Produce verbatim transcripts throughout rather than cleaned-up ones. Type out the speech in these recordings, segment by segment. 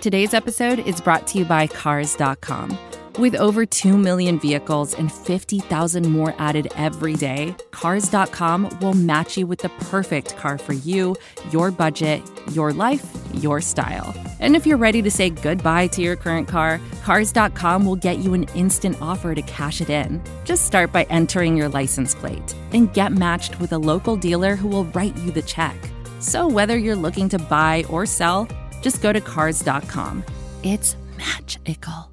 Today's episode is brought to you by Cars dot com. With over two million vehicles and fifty thousand more added every day, Cars dot com will match you with the perfect car for you, your budget, your life, your style. And if you're ready to say goodbye to your current car, Cars dot com will get you an instant offer to cash it in. Just start by entering your license plate and get matched with a local dealer who will write you the check. So whether you're looking to buy or sell, just go to Cars dot com. It's magical.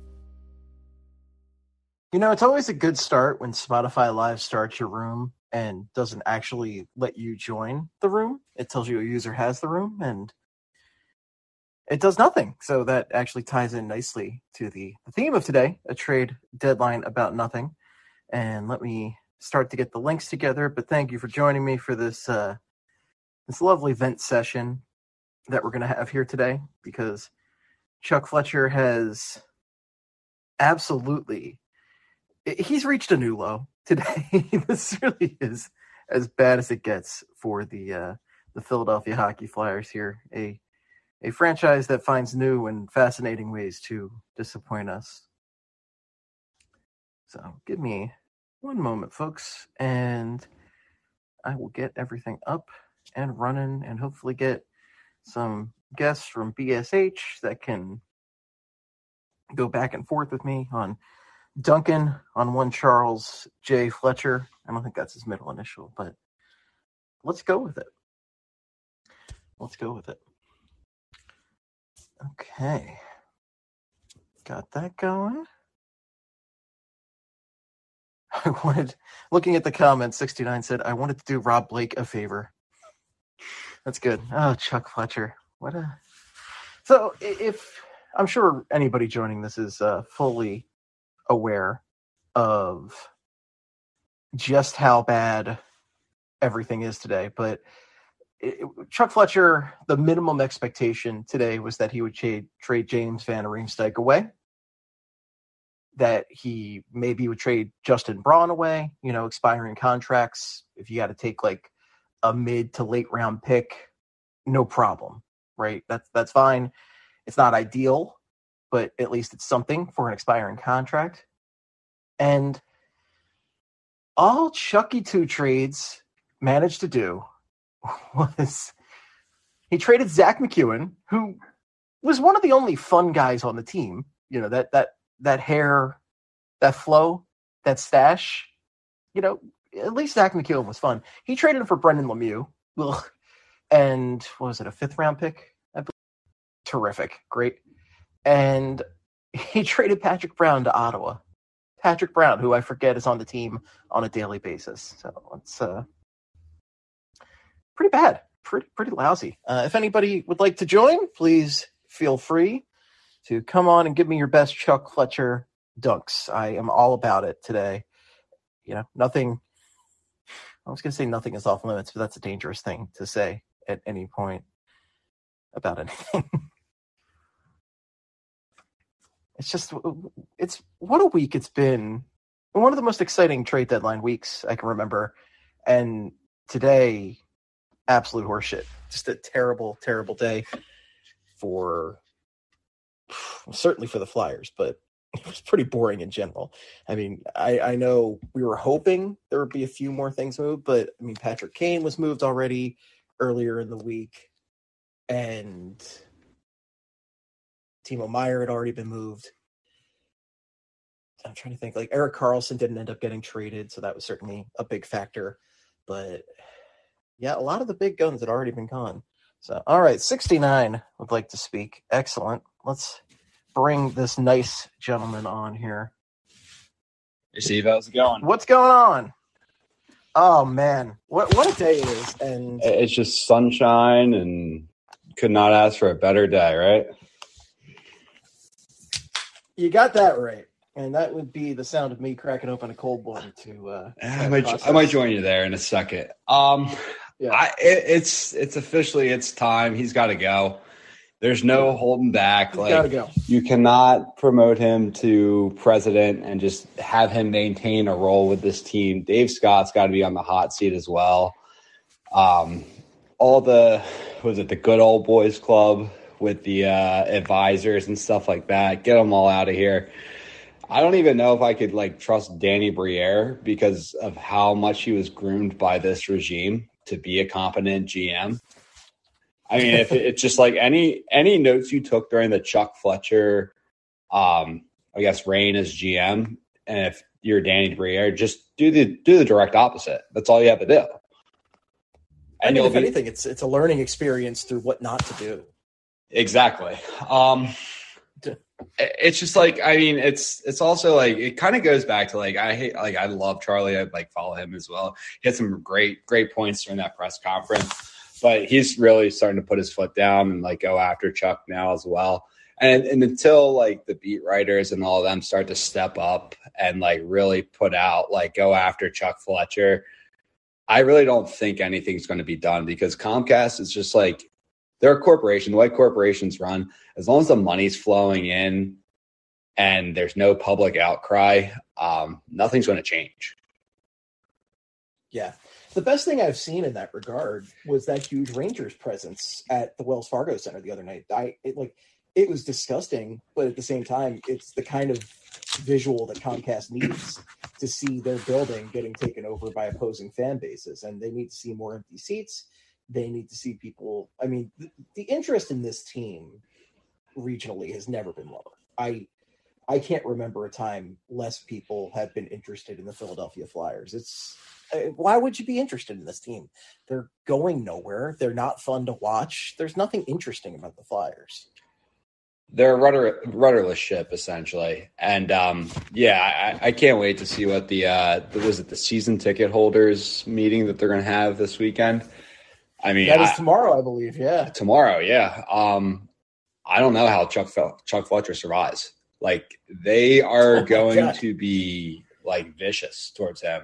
You know, it's always a good start when Spotify Live starts your room and doesn't actually let you join the room. It tells you a user has the room and it does nothing. So that actually ties in nicely to the, the theme of today, a trade deadline about nothing. And let me start to get the links together. But thank you for joining me for this uh, this lovely vent session that we're going to have here today, because Chuck Fletcher has absolutely... He's reached a new low today. This really is as bad as it gets for the uh, the Philadelphia Hockey Flyers here, a a franchise that finds new and fascinating ways to disappoint us. So give me one moment, folks, and I will get everything up and running and hopefully get some guests from B S H that can go back and forth with me on Duncan on one Charles J. Fletcher. I don't think that's his middle initial, but let's go with it. Let's go with it. Okay. Got that going. I wanted, looking at the comments, sixty-nine said, I wanted to do Rob Blake a favor. That's good. Oh, Chuck Fletcher. What a... So if, I'm sure anybody joining this is uh, fully aware of just how bad everything is today, but it, Chuck Fletcher, the minimum expectation today was that he would trade, trade James Van Riemsdyk away, that he maybe would trade Justin Braun away, you know, expiring contracts. If you got to take like a mid to late round pick, no problem, right? That's that's fine. It's not ideal, but at least it's something for an expiring contract. And all Chucky Two Trades managed to do was he traded Zach McEwen, who was one of the only fun guys on the team. You know, that that that hair, that flow, that stash. You know, at least Zach McEwen was fun. He traded him for Brendan Lemieux. Ugh. And what was it, a fifth round pick? I believe. Terrific. Great. And he traded Patrick Brown to Ottawa. Patrick Brown, who I forget is on the team on a daily basis. So it's uh, pretty bad. Pretty pretty lousy. Uh, if anybody would like to join, please feel free to come on and give me your best Chuck Fletcher dunks. I am all about it today. You know, nothing... I was going to say nothing is off limits, but that's a dangerous thing to say at any point about anything. It's just, it's what a week it's been. One of the most exciting trade deadline weeks I can remember. And today, absolute horseshit. Just a terrible, terrible day for, certainly for the Flyers, but it was pretty boring in general. I mean, I, I know we were hoping there would be a few more things moved, but I mean, Patrick Kane was moved already earlier in the week, and Timo Meier had already been moved. I'm trying to think, like Erik Karlsson didn't end up getting traded, so that was certainly a big factor. But yeah, a lot of the big guns had already been gone. So, all right, sixty-nine would like to speak. Excellent. Let's bring this nice gentleman on here. Hey, Steve, how's it going? What's going on? Oh, man. What what a day it is. And it's just sunshine and could not ask for a better day, right? You got that right. And that would be the sound of me cracking open a cold one to uh I might, I might join you there in a second. Um yeah. I, it, it's it's officially it's time. He's got to go. There's no holding back. He's like gotta go. You cannot promote him to president and just have him maintain a role with this team. Dave Scott's got to be on the hot seat as well. Um, all the was it the good old boys club with the uh, advisors and stuff like that. Get them all out of here. I don't even know if I could like trust Danny Briere because of how much he was groomed by this regime to be a competent G M. I mean, if it, it's just like any any notes you took during the Chuck Fletcher, um, I guess reign as G M, and if you're Danny Briere, just do the do the direct opposite. That's all you have to do. And I mean, if be, anything, it's it's a learning experience through what not to do. Exactly. Um, it's just like, I mean, it's it's also like it kind of goes back to like I hate like I love Charlie. I like follow him as well. He had some great great points during that press conference, but he's really starting to put his foot down and like go after Chuck now as well. And and until like the beat writers and all of them start to step up and like really put out like go after Chuck Fletcher, I really don't think anything's going to be done because Comcast is just like they're a corporation. The way corporations run, as long as the money's flowing in and there's no public outcry, um, nothing's going to change. Yeah. The best thing I've seen in that regard was that huge Rangers presence at the Wells Fargo Center the other night. I it, like it was disgusting, but at the same time, it's the kind of visual that Comcast needs to see their building getting taken over by opposing fan bases, and they need to see more empty seats. They need to see people. I mean, the, the interest in this team regionally has never been lower. I I can't remember a time less people have been interested in the Philadelphia Flyers. It's why would you be interested in this team? They're going nowhere. They're not fun to watch. There's nothing interesting about the Flyers. They're a rudder, rudderless ship, essentially. And, um, yeah, I, I can't wait to see what the, uh, the, was it the season ticket holders meeting that they're going to have this weekend? I mean, that is I, tomorrow, I believe. Yeah. Tomorrow. Yeah. Um, I don't know how Chuck, Chuck Fletcher survives. Like, they are oh going God. to be, like, vicious towards him.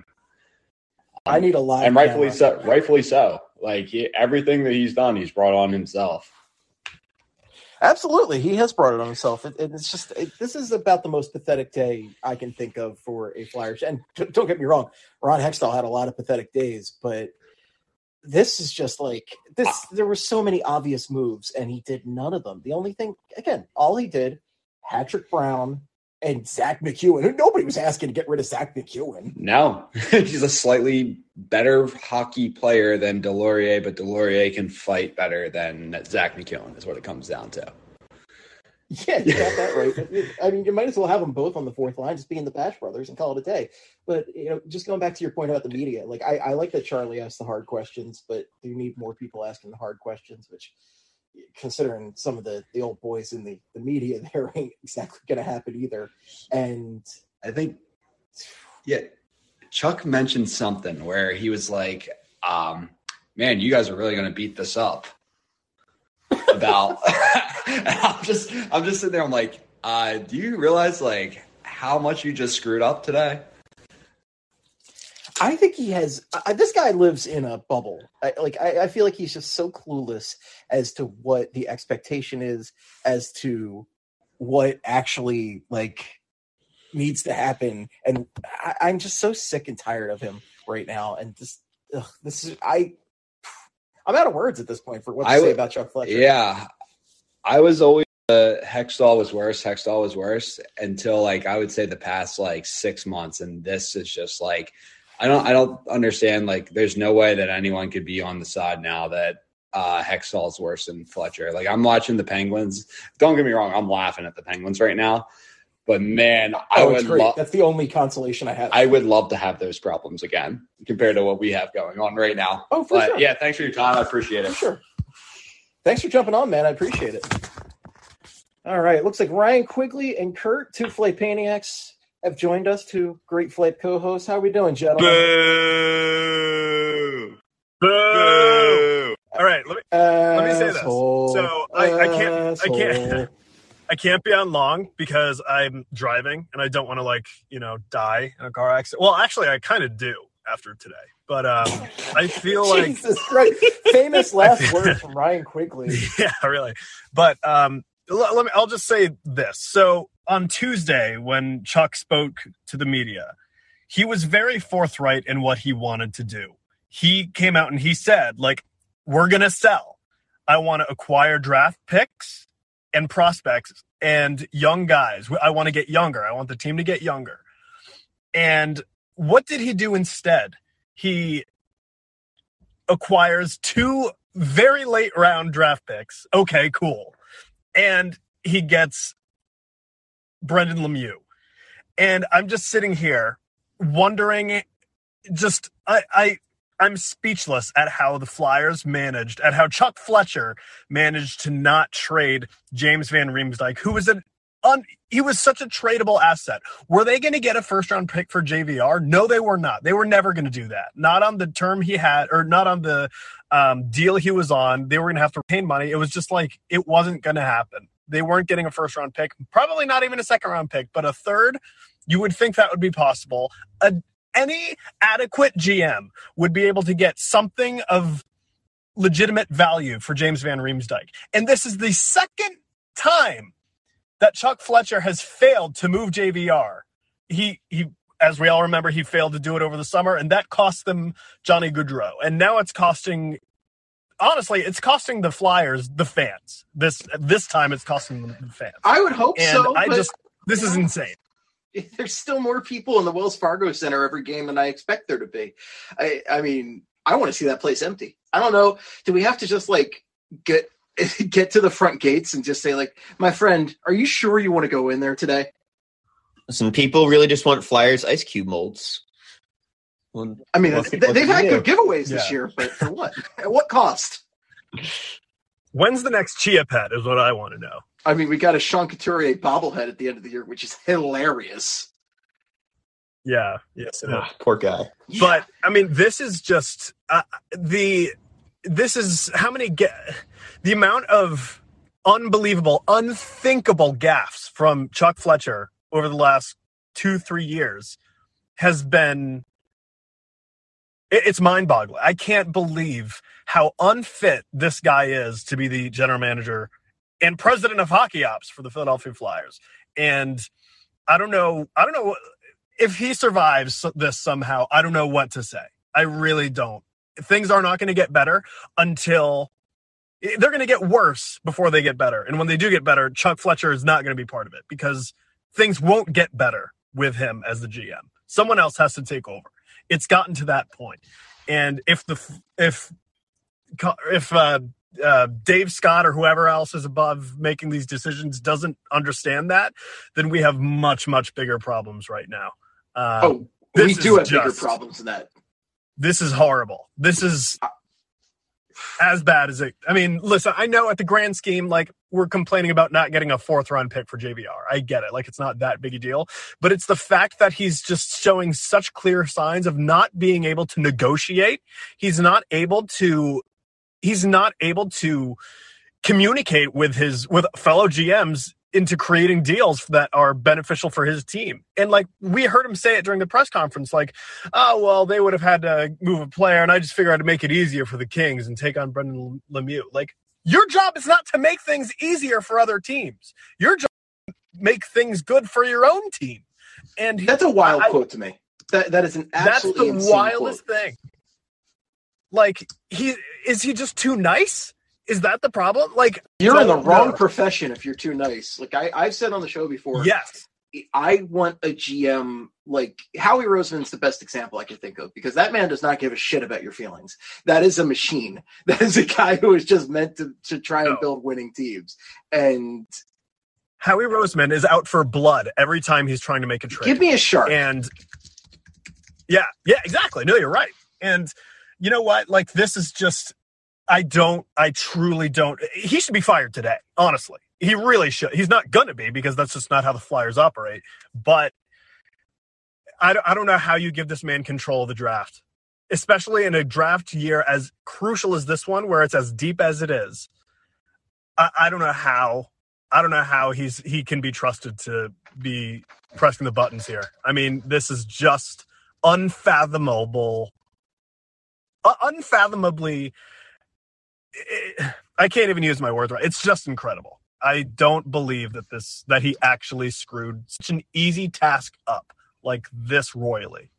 Um, I need a live And rightfully so. Rightfully so. Like, he, everything that he's done, he's brought on himself. Absolutely. He has brought it on himself. It, it's just, it, this is about the most pathetic day I can think of for a Flyers. And t- don't get me wrong, Ron Hextall had a lot of pathetic days, but this is just like this. There were so many obvious moves and he did none of them. The only thing, again, all he did, Patrick Brown and Zach McEwen. Nobody was asking to get rid of Zach McEwen. No, he's a slightly better hockey player than Delorier, but Delorier can fight better than Zach McEwen is what it comes down to. Yeah, you got that right. I mean, you might as well have them both on the fourth line, just being the Bash brothers and call it a day. But, you know, just going back to your point about the media, like I, I like that Charlie asked the hard questions, but you need more people asking the hard questions, which considering some of the, the old boys in the, the media, there ain't exactly going to happen either. And I think, yeah, Chuck mentioned something where he was like, um, man, you guys are really going to beat this up about, I'm just, I'm just sitting there. I'm like, uh, do you realize like how much you just screwed up today? I think he has. Uh, this guy lives in a bubble. I, like I, I feel like he's just so clueless as to what the expectation is, as to what actually like needs to happen. And I, I'm just so sick and tired of him right now. And just ugh, this is I. I'm out of words at this point for what to I say would, about Chuck Fletcher. Yeah, I was always uh, Hextall was worse. Hextall was worse until like I would say the past like six months, and this is just like. I don't I don't understand, like, there's no way that anyone could be on the side now that uh, Hextall is worse than Fletcher. Like, I'm watching the Penguins. Don't get me wrong, I'm laughing at the Penguins right now. But, man, I oh, would love – That's the only consolation I have. I would love to have those problems again compared to what we have going on right now. Oh, for but, sure. Yeah, thanks for your time. I appreciate it. For sure. Thanks for jumping on, man. I appreciate it. All right. Looks like Ryan Quigley and Kurt, two Flight Paniacs, have joined us, two great flight co-hosts. How are we doing, gentlemen? Boo! Boo! All right, let me let me say this. So I, I can't I can't I can't be on long because I'm driving and I don't want to like you know die in a car accident. Well, actually, I kind of do after today, but um, I feel like Jesus Christ, famous last words from Ryan Quigley. Yeah, really. But um, let, let me. I'll just say this. So. On Tuesday, when Chuck spoke to the media, he was very forthright in what he wanted to do. He came out and he said, like, we're going to sell. I want to acquire draft picks and prospects and young guys. I want to get younger. I want the team to get younger. And what did he do instead? He acquires two very late round draft picks. Okay, cool. And he gets Brendan Lemieux. And I'm just sitting here wondering, just, I, I, I'm speechless at how the Flyers managed, at how Chuck Fletcher managed to not trade James Van Riemsdyk, who was an un, he was such a tradable asset. Were they going to get a first round pick for J V R? No, they were not. They were never going to do that. Not on the term he had, or not on the um, deal he was on. They were going to have to pay money. It was just like, it wasn't going to happen. They weren't getting a first round pick, probably not even a second round pick, but a third. You would think that would be possible. A Any adequate G M would be able to get something of legitimate value for James Van Riemsdyk. And this is the second time that Chuck Fletcher has failed to move J V R. He, he, as we all remember, he failed to do it over the summer, and that cost them Johnny Gaudreau. And now it's costing, honestly, it's costing the Flyers the fans. This this time it's costing them the fans. I would hope and so. I but... just, this is insane. There's still more people in the Wells Fargo Center every game than I expect there to be. I, I mean, I want to see that place empty. I don't know. Do we have to just like get get to the front gates and just say like, my friend, are you sure you want to go in there today? Listen, people really just want Flyers ice cube molds. Well, I mean, they, they've had good giveaways this yeah. year, but for what? At what cost? When's the next Chia Pet is what I want to know. I mean, we got a Sean Couturier bobblehead at the end of the year, which is hilarious. Yeah, yes, it oh, is. Poor guy. But I mean, this is just uh, the. This is how many get the amount of unbelievable, unthinkable gaffes from Chuck Fletcher over the last two, three years has been. It, it's mind-boggling. I can't believe how unfit this guy is to be the general manager and president of hockey ops for the Philadelphia Flyers. And I don't know, I don't know if he survives this somehow. I don't know what to say. I really don't. Things are not going to get better until they're going to get worse before they get better. And when they do get better, Chuck Fletcher is not going to be part of it because things won't get better with him as the G M. Someone else has to take over. It's gotten to that point. And if the, if, if, uh, Uh, Dave Scott or whoever else is above making these decisions doesn't understand that, then we have much, much bigger problems right now. Uh, oh, we do have just, bigger problems than that. This is horrible. This is as bad as it. I mean, listen, I know at the grand scheme, like we're complaining about not getting a fourth round pick for J V R. I get it. Like it's not that big a deal, but it's the fact that he's just showing such clear signs of not being able to negotiate. He's not able to He's not able to communicate with his with fellow G Ms into creating deals that are beneficial for his team. And like we heard him say it during the press conference, like, oh, well, they would have had to move a player. And I just figured I'd make it easier for the Kings and take on Brendan Lemieux. Like your job is not to make things easier for other teams. Your job is to make things good for your own team. And that's a wild I, quote to me. That That is an absolutely That's the wildest quote. thing. Like, he is he just too nice? Is that the problem? Like, you're in the wrong know. profession if you're too nice. Like I, I've said on the show before. Yes. I want a G M like Howie Roseman's the best example I can think of because that man does not give a shit about your feelings. That is a machine. That is a guy who is just meant to, to try no. and build winning teams. And Howie Roseman is out for blood every time he's trying to make a trade. Give me a shark. And yeah, yeah, exactly. No, you're right. And you know what? Like, this is just, I don't, I truly don't. He should be fired today, honestly. He really should. He's not going to be because that's just not how the Flyers operate. But I don't, I don't know how you give this man control of the draft, especially in a draft year as crucial as this one, where it's as deep as it is. I, I don't know how. I don't know how he's he can be trusted to be pressing the buttons here. I mean, this is just unfathomable. Unfathomably, I can't even use my words right. It's just incredible. I don't believe that this that he actually screwed such an easy task up like this royally.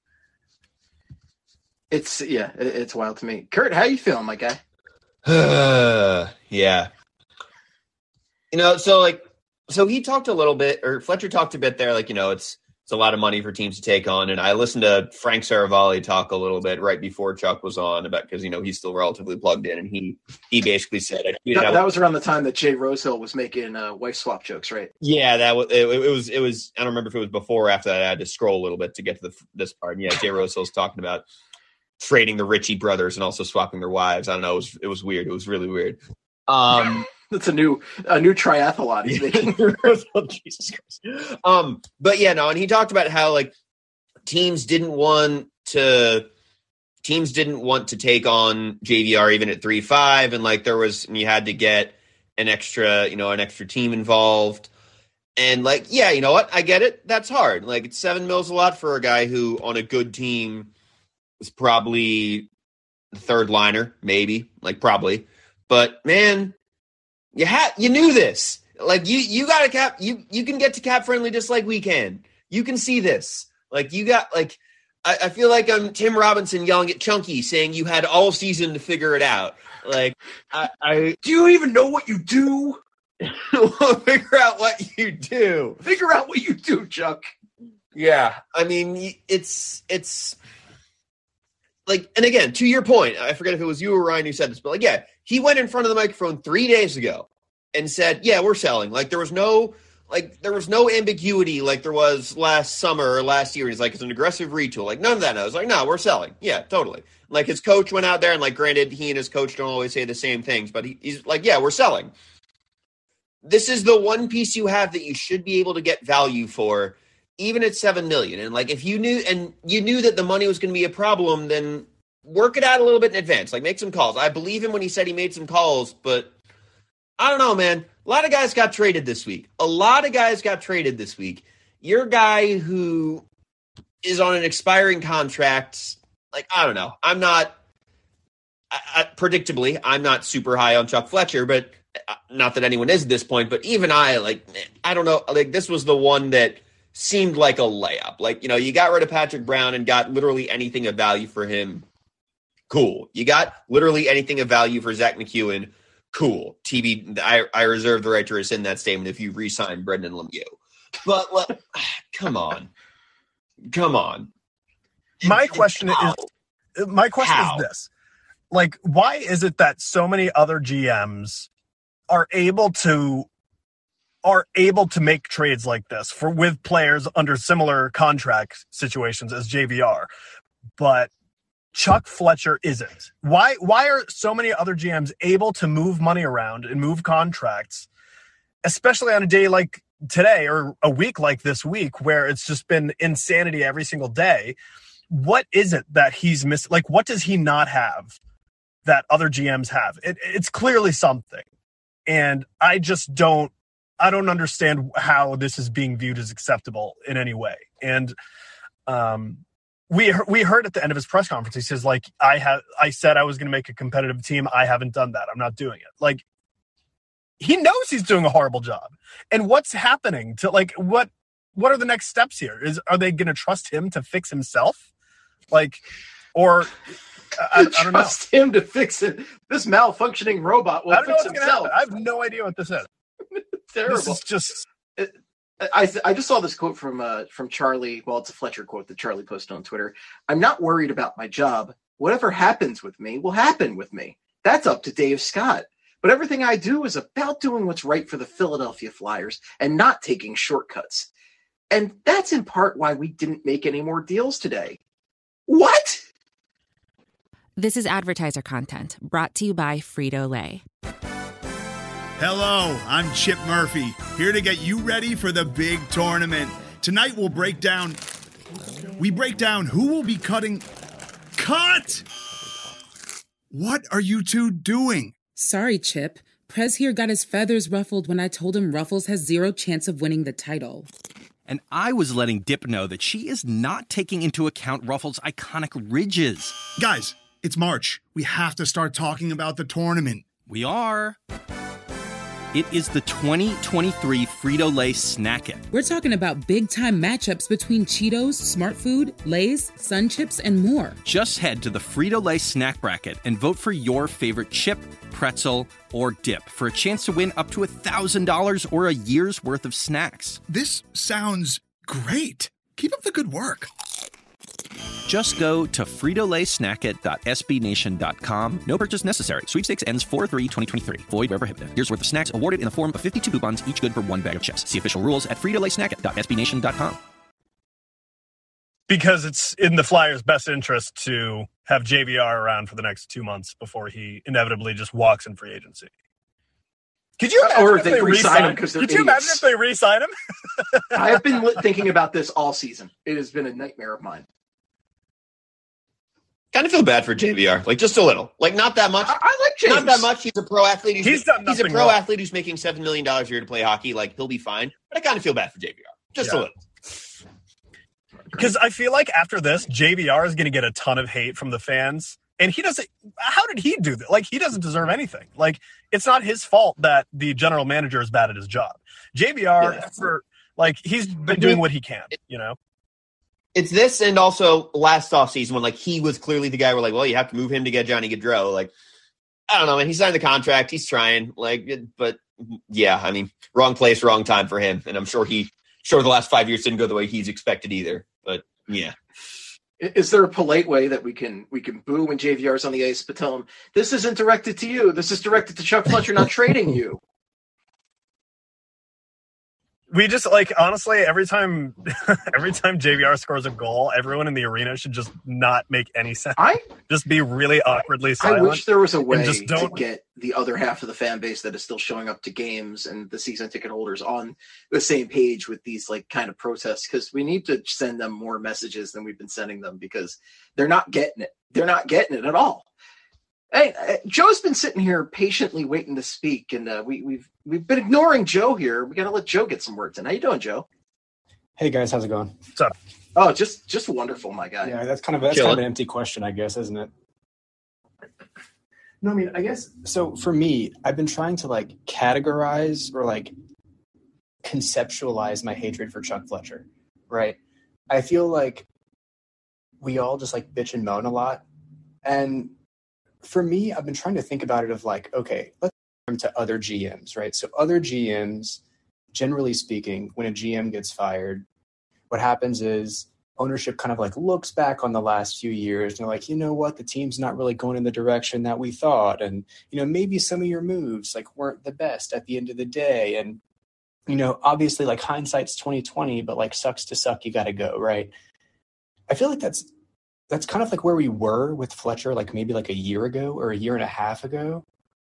It's yeah, it's wild to me. Kurt, how you feeling, my guy? Uh, yeah. You know, so like, so he talked a little bit, or Fletcher talked a bit there, like, you know, it's it's a lot of money for teams to take on. And I listened to Frank Saravalli talk a little bit right before Chuck was on about, because, you know, he's still relatively plugged in. And he he basically said, I that, that was around the time that Jay Rosehill was making uh, wife swap jokes, right? Yeah, that was it, it was it was. I don't remember if it was before or after that. I had to scroll a little bit to get to the, this part. And yeah, Jay Rosehill's talking about trading the Ritchie brothers and also swapping their wives. I don't know. It was it was weird. It was really weird. Um, That's a new a new triathlon he's making. Jesus Christ. Um, but yeah, no, and he talked about how like teams didn't want to teams didn't want to take on J V R even at three five, and like there was and you had to get an extra, you know, an extra team involved. And like, yeah, you know what? I get it. That's hard. Like it's seven mils a lot for a guy who on a good team is probably the third liner, maybe, like probably. But man, you had you knew this. Like you you got a cap. You you can get to cap friendly just like we can. You can see this. Like you got like I, I feel like I'm Tim Robinson yelling at Chunky saying you had all season to figure it out. Like I, I do you even know what you do? Figure out what you do. Figure out what you do, Chuck. Yeah, I mean it's it's. Like, and again, to your point, I forget if it was you or Ryan who said this, but like, yeah, he went in front of the microphone three days ago and said, yeah, we're selling. Like there was no, like there was no ambiguity like there was last summer or last year. He's like, it's an aggressive retool. Like none of that. I was like, no, we're selling. Yeah, totally. Like his coach went out there and like, granted, he and his coach don't always say the same things, but he, he's like, yeah, we're selling. This is the one piece you have that you should be able to get value for, even at seven million. And like, if you knew, and you knew that the money was going to be a problem, then work it out a little bit in advance. Like make some calls. I believe him when he said he made some calls, but I don't know, man. A lot of guys got traded this week. A lot of guys got traded this week. You're a guy who is on an expiring contract. Like, I don't know. I'm not, I, I, predictably, I'm not super high on Chuck Fletcher, but not that anyone is at this point, but even I, like, I don't know. Like, this was the one that seemed like a layup. Like, you know, you got rid of Patrick Brown and got literally anything of value for him. Cool. You got literally anything of value for Zach McEwen. Cool. T B, I, I reserve the right to rescind that statement if you re-sign Brendan Lemieux. But, like, come on. Come on. My question How? is, my question How? is this. Like, why is it that so many other G Ms are able to are able to make trades like this for with players under similar contract situations as J V R, but Chuck Fletcher isn't? Why why are so many other G Ms able to move money around and move contracts, especially on a day like today or a week like this week where it's just been insanity every single day? What is it that he's missing? Like, what does he not have that other G Ms have? It, it's clearly something. And I just don't, I don't understand how this is being viewed as acceptable in any way. And um, we we heard at the end of his press conference, he says, like, I have, I said I was going to make a competitive team. I haven't done that. I'm not doing it. Like, he knows he's doing a horrible job. And what's happening to, like, what, what are the next steps here? Is, are they going to trust him to fix himself? Like, or I, I don't trust know. him to fix it. This malfunctioning robot will fix himself. I have no idea what this is. Terrible. This is just. It, I I just saw this quote from uh, from Charlie. Well, it's a Fletcher quote that Charlie posted on Twitter. I'm not worried about my job. Whatever happens with me will happen with me. That's up to Dave Scott. But everything I do is about doing what's right for the Philadelphia Flyers and not taking shortcuts. And that's in part why we didn't make any more deals today. What? This is advertiser content brought to you by Frito-Lay. Hello, I'm Chip Murphy, here to get you ready for the big tournament. Tonight we'll break down, we break down who will be cutting, cut! What are you two doing? Sorry, Chip. Prez here got his feathers ruffled when I told him Ruffles has zero chance of winning the title. And I was letting Dip know that she is not taking into account Ruffles' iconic ridges. Guys, it's March. We have to start talking about the tournament. We are. It is the twenty twenty-three Frito-Lay Snack It. We're talking about big-time matchups between Cheetos, Smart Food, Lay's, Sun Chips, and more. Just head to the Frito-Lay Snack Bracket and vote for your favorite chip, pretzel, or dip for a chance to win up to one thousand dollars or a year's worth of snacks. This sounds great. Keep up the good work. Just go to frito lay snack it dot s b nation dot com. No purchase necessary. Sweepstakes ends four three twenty twenty-three. Void where prohibited. Year's worth of snacks awarded in the form of fifty-two coupons, each good for one bag of chips. See official rules at frito lay snack it dot s b nation dot com. Because it's in the Flyers' best interest to have J V R around for the next two months before he inevitably just walks in free agency. Could you imagine or if they, they re-sign him because they're Could you idiots. imagine if they re-sign him? I have been thinking about this all season. It has been a nightmare of mine. Kind of feel bad for J V R, like just a little, like not that much. I, I like James. Not that much. He's a pro athlete. He's, He's done he's a nothing pro wrong. athlete who's making seven million dollars a year to play hockey. Like he'll be fine. But I kind of feel bad for J V R, just Yeah. a little. Because I feel like after this, J V R is going to get a ton of hate from the fans. And he doesn't, how did he do that? Like, he doesn't deserve anything. Like, it's not his fault that the general manager is bad at his job. J V R, Yeah. for, like, he's been doing what he can, you know? It's this, and also last offseason when like he was clearly the guy where like, well, you have to move him to get Johnny Gaudreau. Like, I don't know, man. He signed the contract. He's trying. Like, but yeah, I mean, wrong place, wrong time for him. And I'm sure he, sure the last five years didn't go the way he's expected either. But yeah. Is there a polite way that we can we can boo when J V R's on the ice, but tell him this isn't directed to you? This is directed to Chuck Fletcher, not trading you. We just, like, honestly, every time every time J V R scores a goal, everyone in the arena should just not make any sense. I just be really awkwardly I silent. wish there was a way just don't- to get the other half of the fan base that is still showing up to games and the season ticket holders on the same page with these like kind of protests, because we need to send them more messages than we've been sending them, because they're not getting it. They're not getting it at all. Hey, uh, Joe's been sitting here patiently waiting to speak, and uh, we, we've we've been ignoring Joe here. We got to let Joe get some words in. How you doing, Joe? Hey guys, how's it going? What's up? Oh, just just wonderful, my guy. Yeah, that's kind of that's Chilling. kind of an empty question, I guess, isn't it? No, I mean, I guess so. For me, I've been trying to like categorize or like conceptualize my hatred for Chuck Fletcher. Right? I feel like we all just like bitch and moan a lot, and for me, I've been trying to think about it of like, okay, let's turn to other G Ms, right? So other G Ms, generally speaking, when a G M gets fired, what happens is ownership kind of like looks back on the last few years and they're like, you know what, the team's not really going in the direction that we thought. And, you know, maybe some of your moves like weren't the best at the end of the day. And, you know, obviously like hindsight's twenty twenty, but like sucks to suck, you got to go, right? I feel like that's, that's kind of like where we were with Fletcher, like maybe like a year ago or a year and a half ago.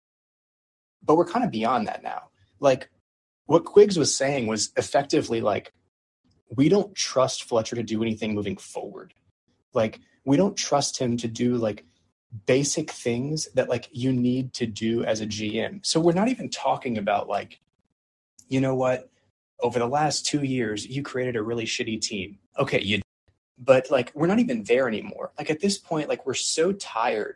But we're kind of beyond that now. Like what Quiggs was saying was effectively like, we don't trust Fletcher to do anything moving forward. Like we don't trust him to do like basic things that like you need to do as a G M. So we're not even talking about like, you know what, over the last two years, you created a really shitty team. Okay, you But like, we're not even there anymore. Like at this point, like we're so tired.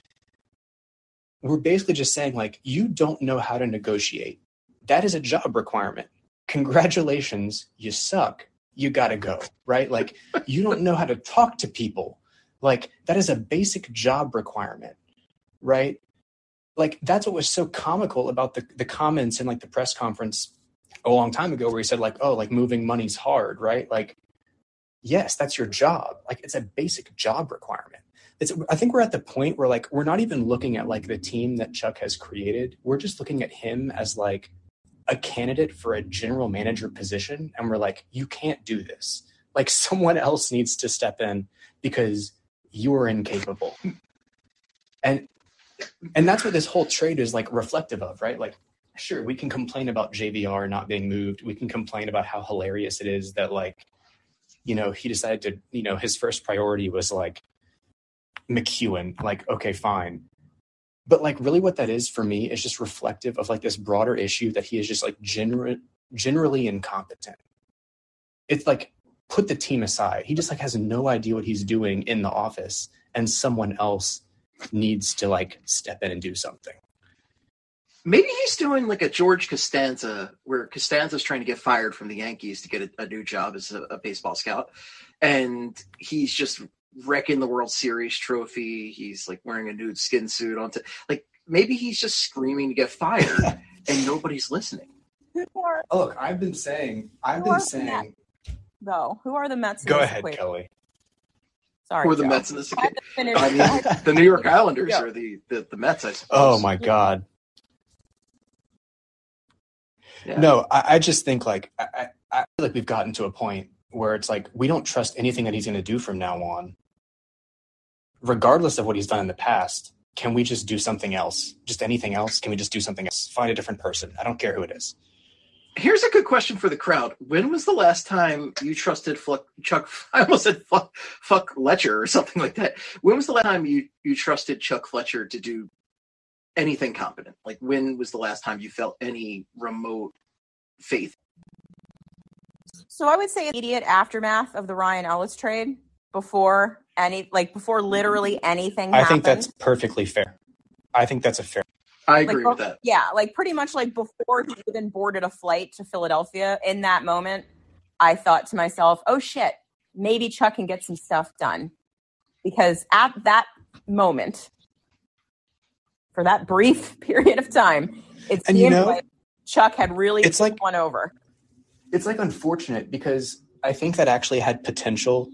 We're basically just saying like, you don't know how to negotiate. That is a job requirement. Congratulations. You suck. You got to go. Right. Like you don't know how to talk to people. Like that is a basic job requirement. Right. Like that's what was so comical about the, the comments in like the press conference a long time ago where he said like, oh, like moving money's hard. Right. Like, yes, that's your job. Like it's a basic job requirement. It's, I think we're at the point where like, we're not even looking at like the team that Chuck has created. We're just looking at him as like a candidate for a general manager position. And we're like, you can't do this. Like someone else needs to step in because you are incapable. And, and that's what this whole trade is like reflective of, right? Like, sure, we can complain about J V R not being moved. We can complain about how hilarious it is that like, you know, he decided to, you know, his first priority was like McEwen, like, okay, fine. But like really what that is for me is just reflective of like this broader issue that he is just like gener- generally incompetent. It's like, put the team aside. He just like has no idea what he's doing in the office and someone else needs to like step in and do something. Maybe he's doing like a George Costanza, where Costanza's trying to get fired from the Yankees to get a, a new job as a, a baseball scout. And he's just wrecking the World Series trophy. He's like wearing a nude skin suit onto like maybe he's just screaming to get fired and nobody's listening. Oh, look, I've been saying, I've been saying, though, who are the Mets? In go this ahead, equation? Kelly. Sorry, who are the Joe. Mets in this? I I, I mean, the New York Islanders yeah. are the, the the Mets, I suppose. Oh my God. Yeah. No, I, I just think like I, I, I feel like we've gotten to a point where it's like we don't trust anything that he's going to do from now on, regardless of what he's done in the past. Can we just do something else? Just anything else? Can we just do something else? Find a different person. I don't care who it is. Here's a good question for the crowd. When was the last time you trusted Fluck, Chuck? I almost said fuck, fuck Fletcher or something like that. When was the last time you, you trusted Chuck Fletcher to do anything competent? Like, when was the last time you felt any remote faith? So I would say immediate aftermath of the Ryan Ellis trade, before any, like before literally anything I happened. think that's perfectly fair. I think that's a fair. I agree like, with that. Yeah, like pretty much like before he even boarded a flight to Philadelphia, in that moment, I thought to myself, oh shit, maybe Chuck can get some stuff done. Because at that moment, for that brief period of time, it And seemed you know, like Chuck had really it's like won over. It's like unfortunate because I think that actually had potential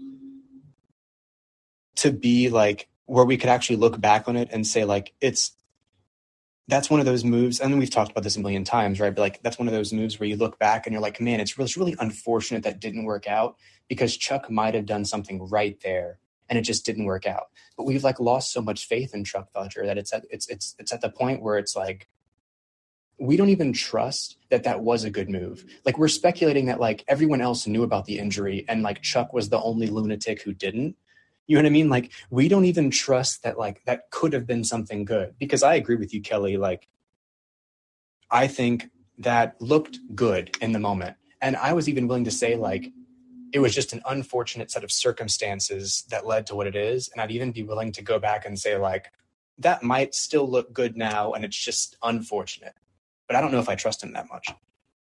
to be like where we could actually look back on it and say like it's that's one of those moves. And we've talked about this a million times, right? But like that's one of those moves where you look back and you're like, man, it's really, it's really unfortunate that didn't work out because Chuck might have done something right there and it just didn't work out. But we've like lost so much faith in Chuck Fletcher that it's at it's it's it's at the point where it's like we don't even trust that that was a good move. Like we're speculating that like everyone else knew about the injury and like Chuck was the only lunatic who didn't. You know what I mean? Like we don't even trust that like that could have been something good, because I agree with you, Kelly. Like I think that looked good in the moment. And I was even willing to say like it was just an unfortunate set of circumstances that led to what it is. And I'd even be willing to go back and say like that might still look good now and it's just unfortunate. But I don't know if I trust him that much.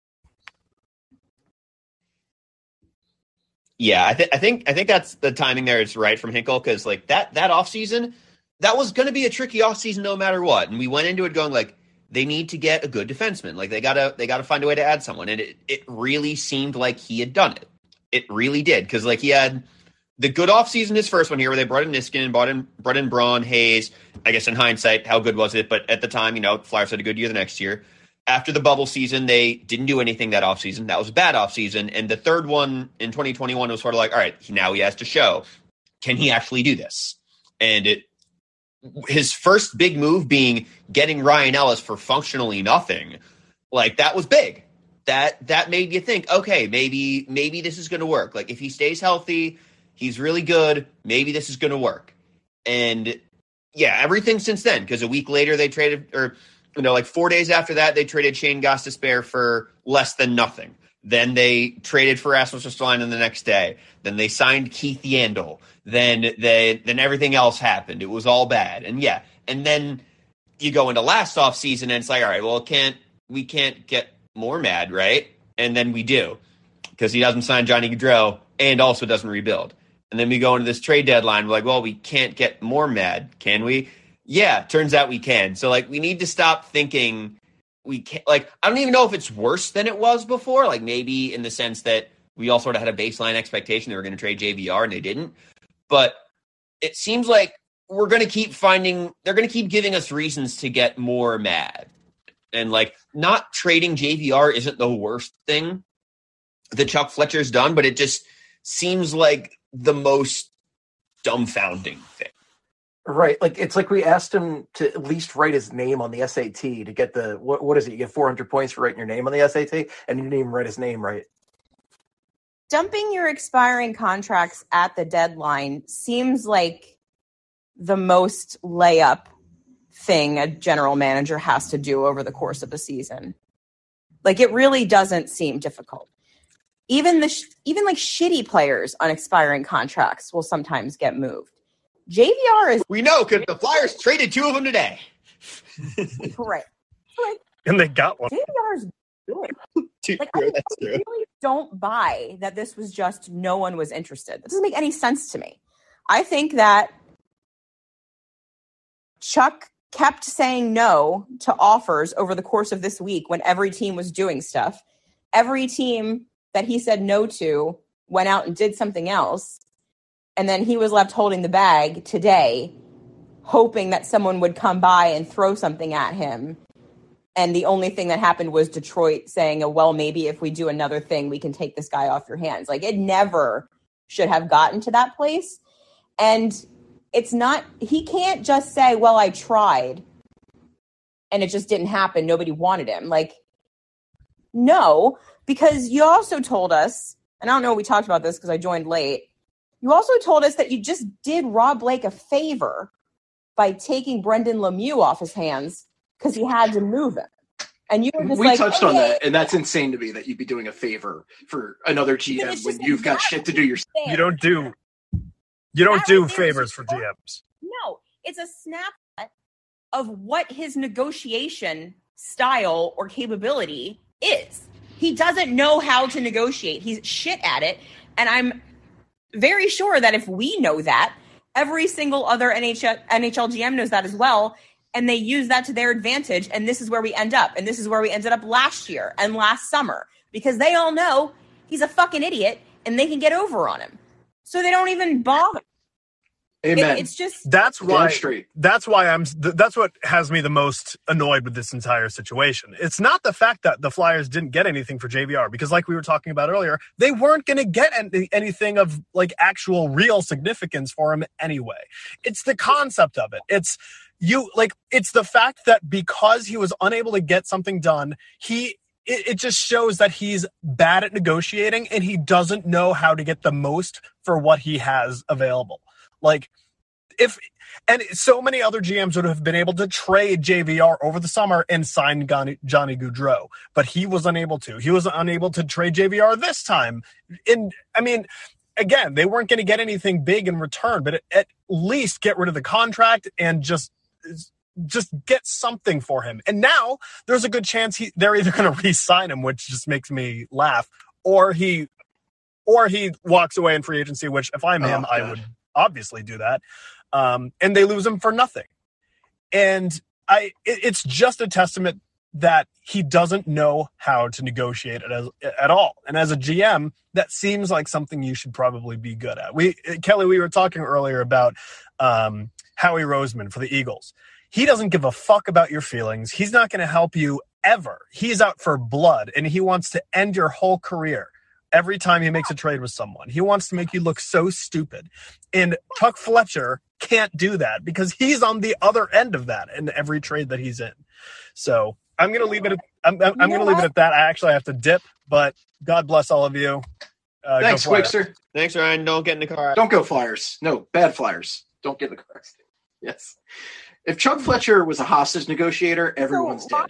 Yeah, I, th- I think I think that's the timing there is right from Hinkle, because like that that offseason, that was going to be a tricky offseason no matter what. And we went into it going like they need to get a good defenseman. Like they gotta they gotta find a way to add someone. And it, it really seemed like he had done it. It really did, because like he had the good offseason, his first one here, where they brought in Niskanen, brought in brought in Braun, Hayes. I guess in hindsight, how good was it? But at the time, you know, Flyers had a good year the next year. After the bubble season, they didn't do anything that offseason. That was a bad offseason. And the third one in twenty twenty-one was sort of like, all right, now he has to show, can he actually do this? And it, his first big move being getting Ryan Ellis for functionally nothing, like that was big. That that made you think, okay, maybe maybe this is going to work. Like if he stays healthy, he's really good. Maybe this is going to work. And yeah, everything since then, because a week later they traded, or you know, like four days after that, they traded Shane Gostisbehere for less than nothing. Then they traded for Rasmus Ristolainen the next day. Then they signed Keith Yandel. Then they, then everything else happened. It was all bad. And yeah, and then you go into last offseason and it's like, all right, well, can't we can't get more mad, right? And then we do, because he doesn't sign Johnny Gaudreau and also doesn't rebuild. And then we go into this trade deadline. We're like, well, we can't get more mad, can we? Yeah, turns out we can. So, like, we need to stop thinking we can't. Like, I don't even know if it's worse than it was before. Like, maybe in the sense that we all sort of had a baseline expectation they were going to trade J V R and they didn't. But it seems like we're going to keep finding, they're going to keep giving us reasons to get more mad. And, like, not trading J V R isn't the worst thing that Chuck Fletcher's done, but it just seems like the most dumbfounding thing. Right. Like, it's like we asked him to at least write his name on the S A T to get the, what, what is it? You get four hundred points for writing your name on the S A T, and he didn't even write his name right. Dumping your expiring contracts at the deadline seems like the most layup thing a general manager has to do over the course of a season. Like, it really doesn't seem difficult. Even the, sh- even like shitty players on expiring contracts will sometimes get moved. J V R is... We know, because the Flyers traded two of them today. Correct. Like, And they got one. J V R's good. Dude, Like, yeah, I, that's I true. really don't buy that this was just no one was interested. That doesn't make any sense to me. I think that Chuck kept saying no to offers over the course of this week when every team was doing stuff. Every team that he said no to went out and did something else. And then he was left holding the bag today, hoping that someone would come by and throw something at him. And the only thing that happened was Detroit saying, oh, well, maybe if we do another thing, we can take this guy off your hands. Like, it never should have gotten to that place. And it's not, he can't just say, well, I tried and it just didn't happen. Nobody wanted him. Like, no, because you also told us, and I don't know if we talked about this because I joined late. You also told us that you just did Rob Blake a favor by taking Brendan Lemieux off his hands because he had to move him. And you were just we like, touched hey, on that, and that's insane to me that you'd be doing a favor for another G M when you've got shit to do yourself. You don't do you don't That do right there is favors for just- D Ms. No, it's a snapshot of what his negotiation style or capability is. He doesn't know how to negotiate. He's shit at it. And I'm very sure that if we know that, every single other N H L, N H L G M knows that as well. And they use that to their advantage. And this is where we end up. And this is where we ended up last year and last summer. Because they all know he's a fucking idiot and they can get over on him. So they don't even bother. Amen. It, it's just That's why. Damn straight. That's why I'm. th- That's what has me the most annoyed with this entire situation. It's not the fact that the Flyers didn't get anything for J V R, because, like we were talking about earlier, they weren't going to get any, anything of like actual real significance for him anyway. It's the concept of it. It's you like. It's the fact that because he was unable to get something done, he. It, it just shows that he's bad at negotiating and he doesn't know how to get the most for what he has available. Like, if and so many other G Ms would have been able to trade J V R over the summer and sign Johnny, Johnny Gaudreau, but he was unable to. He was unable to trade J V R this time. And I mean, again, they weren't going to get anything big in return, but at least get rid of the contract and just just get something for him. And now there's a good chance he they're either going to re-sign him, which just makes me laugh, or he or he walks away in free agency, which if I'm him, Oh, I God. would obviously do that. Um, and they lose him for nothing. And I, it, it's just a testament that he doesn't know how to negotiate it as, at all. And as a G M, that seems like something you should probably be good at. We, Kelly, we were talking earlier about um, Howie Roseman for the Eagles. He doesn't give a fuck about your feelings. He's not going to help you ever. He's out for blood, and he wants to end your whole career. Every time he makes a trade with someone, he wants to make you look so stupid. And Chuck Fletcher can't do that because he's on the other end of that in every trade that he's in. So I'm going to leave it. At, I'm, I'm, I'm going to leave it at that. I actually have to dip, but God bless all of you. Uh, Thanks, go Flyers. Quickster. Thanks, Ryan. Don't get in the car. Don't go Flyers. No, bad Flyers. Don't get in the car. Yes. If Chuck Fletcher was a hostage negotiator, everyone's So,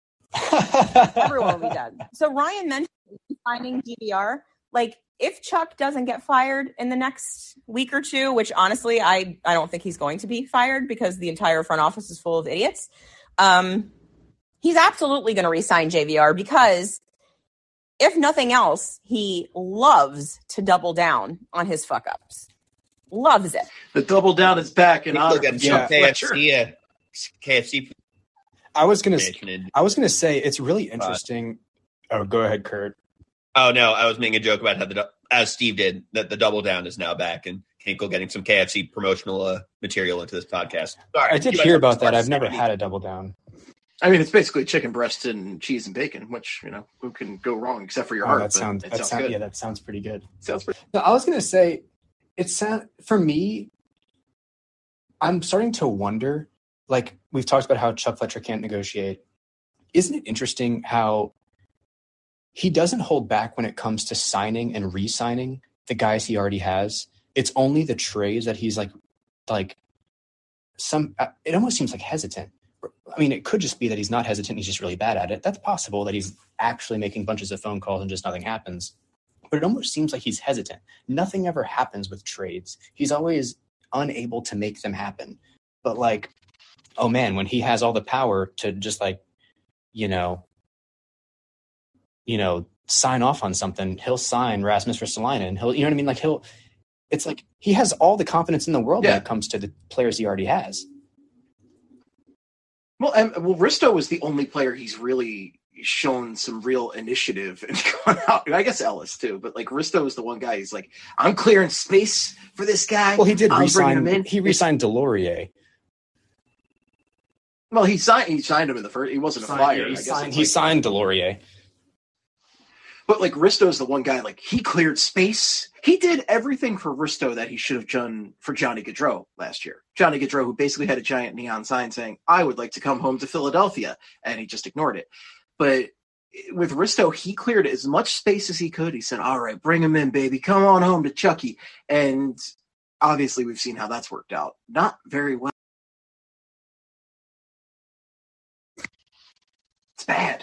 dead. everyone will be dead. So Ryan mentioned finding G V R. Like, if Chuck doesn't get fired in the next week or two, which honestly, I, I don't think he's going to be fired because the entire front office is full of idiots. Um, he's absolutely going to re-sign J V R because if nothing else, he loves to double down on his fuck ups. Loves it. The double down is back in honor Look of yeah. Chuck K F C, Fletcher. uh, K F C. I was gonna, mentioned. I was gonna say it's really interesting. Oh, go ahead, Kurt. Oh no, I was making a joke about how the as Steve did that the double down is now back and Hinkle getting some K F C promotional uh, material into this podcast. Sorry, I did you hear guys about that. are I've never seventy. had a double down. I mean, it's basically chicken breast and cheese and bacon, which, you know, who can go wrong except for your Oh, heart? that but sounds. it That sounds sound, good. yeah, that sounds pretty good. Sounds pretty. No, I was gonna say, it sound for me. I'm starting to wonder. Like we've talked about how Chuck Fletcher can't negotiate. Isn't it interesting how he doesn't hold back when it comes to signing and re-signing the guys he already has? It's only the trades that he's like, like some. It almost seems like hesitant. I mean, it could just be that he's not hesitant. He's just really bad at it. That's possible that he's actually making bunches of phone calls and just nothing happens. But it almost seems like he's hesitant. Nothing ever happens with trades. He's always unable to make them happen. But like, oh man, when he has all the power to just like you know, you know, sign off on something, he'll sign Rasmus Ristolainen. He'll, you know what I mean? Like he'll, it's like he has all the confidence in the world yeah. when it comes to the players he already has. Well, and well, Risto is the only player he's really shown some real initiative and gone out. I guess Ellis too, but like Risto is the one guy. He's like, I'm clearing space for this guy. Well, he did I'm resign. Him in. He re-signed Delorier. Well, he signed. He signed him in the first. He wasn't signed, a flyer. Yeah, he I guess signed, he like, signed Delorier. But like Risto's the one guy. Like he cleared space. He did everything for Risto that he should have done for Johnny Gaudreau last year. Johnny Gaudreau, who basically had a giant neon sign saying, "I would like to come home to Philadelphia," and he just ignored it. But with Risto, he cleared as much space as he could. He said, "All right, bring him in, baby. Come on home to Chucky." And obviously, we've seen how that's worked out. Not very well. It's bad.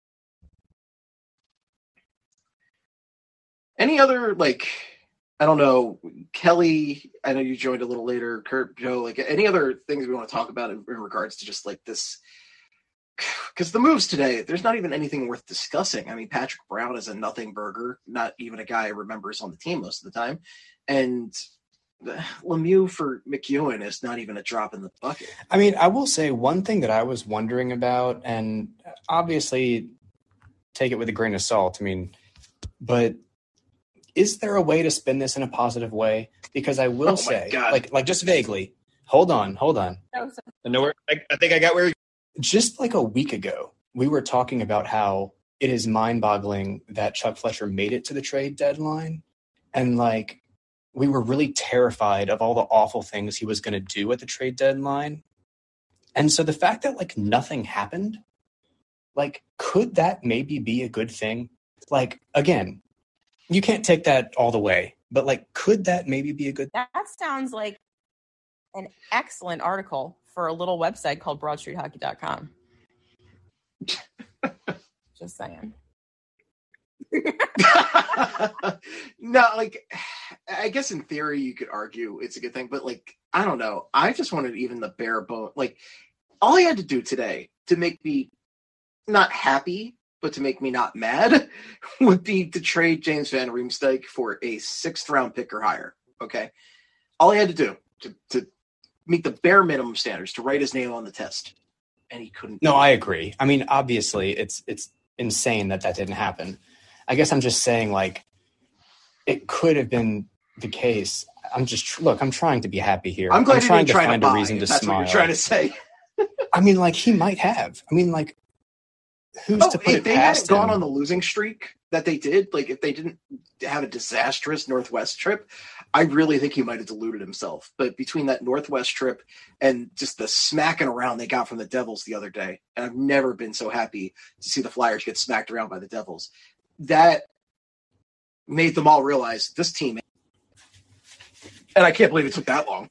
Any other, like, I don't know, Kelly, I know you joined a little later, Kurt, Joe, like, any other things we want to talk about in, in regards to just, like, this? Because the moves today, there's not even anything worth discussing. I mean, Patrick Brown is a nothing burger, not even a guy I remembers on the team most of the time. And Lemieux for McEwen is not even a drop in the bucket. I mean, I will say one thing that I was wondering about, and obviously take it with a grain of salt, I mean, but is there a way to spin this in a positive way? Because I will oh say, like, like just vaguely, hold on, hold on. I know where, I, I think I got where you're... Just like a week ago, we were talking about how it is mind-boggling that Chuck Fletcher made it to the trade deadline. And, like, we were really terrified of all the awful things he was going to do at the trade deadline. And so the fact that, like, nothing happened, like, could that maybe be a good thing? Like, again, you can't take that all the way, but, like, could that maybe be a good thing? That sounds like an excellent article for a little website called broad street hockey dot com. Just saying. No, like, I guess in theory you could argue it's a good thing, but like, I don't know. I just wanted even the bare bone. Like, all he had to do today to make me not happy, but to make me not mad, would be to trade James Van Riemsdyk for a sixth round pick or higher. Okay. All he had to do to, to meet the bare minimum standards, to write his name on the test. And he couldn't. No, I agree. I mean, obviously it's, it's insane that that didn't happen. I guess I'm just saying, like, it could have been the case. I'm just, look, I'm trying to be happy here. I'm glad I'm trying to try find to a buy, reason to that's smile. That's what you're trying to say. I mean, like, he might have. I mean, like, who's oh, to put if it they past hadn't him? gone on the losing streak that they did, like if they didn't have a disastrous Northwest trip, I really think he might have deluded himself. But between that Northwest trip and just the smacking around they got from the Devils the other day, and I've never been so happy to see the Flyers get smacked around by the Devils, that made them all realize this team. And I can't believe it took that long.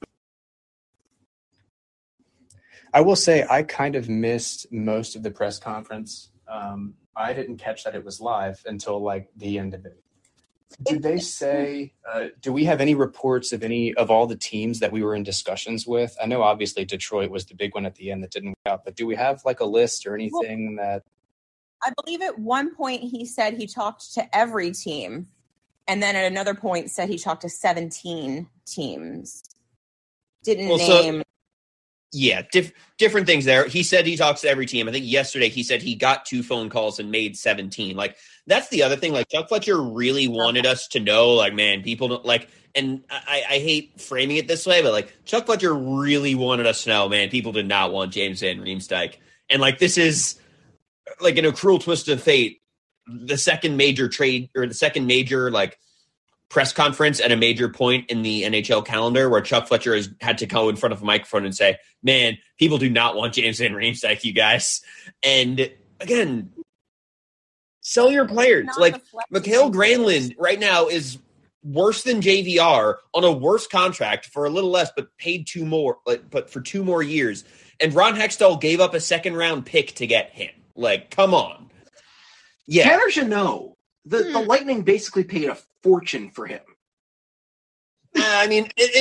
I will say I kind of missed most of the press conference. Um, I didn't catch that it was live until like the end of it. Did they say, uh, do we have any reports of any of all the teams that we were in discussions with? I know obviously Detroit was the big one at the end that didn't work out, but do we have like a list or anything well, that? I believe at one point he said he talked to every team. And then at another point said he talked to seventeen teams. Didn't well, name. So, yeah, diff- different things there. He said he talks to every team. I think yesterday he said he got two phone calls and made seventeen. Like, that's the other thing. Like, Chuck Fletcher really wanted us to know, like, man, people don't like, and I, I hate framing it this way, but like, Chuck Fletcher really wanted us to know, man, people did not want James Van Riemsdyk. And like, this is like in a cruel twist of fate, the second major trade or the second major like press conference at a major point in the N H L calendar where Chuck Fletcher has had to go in front of a microphone and say, man, people do not want James Van Riemsdyk, you guys. And again, sell your players. Like Mikael Granlund right now is worse than J V R on a worse contract for a little less, but paid two more, like, but for two more years. And Ron Hextall gave up a second round pick to get him. Like, come on. Yeah. Tanner should know. The, hmm. the Lightning basically paid a fortune for him. Uh, I mean, and, and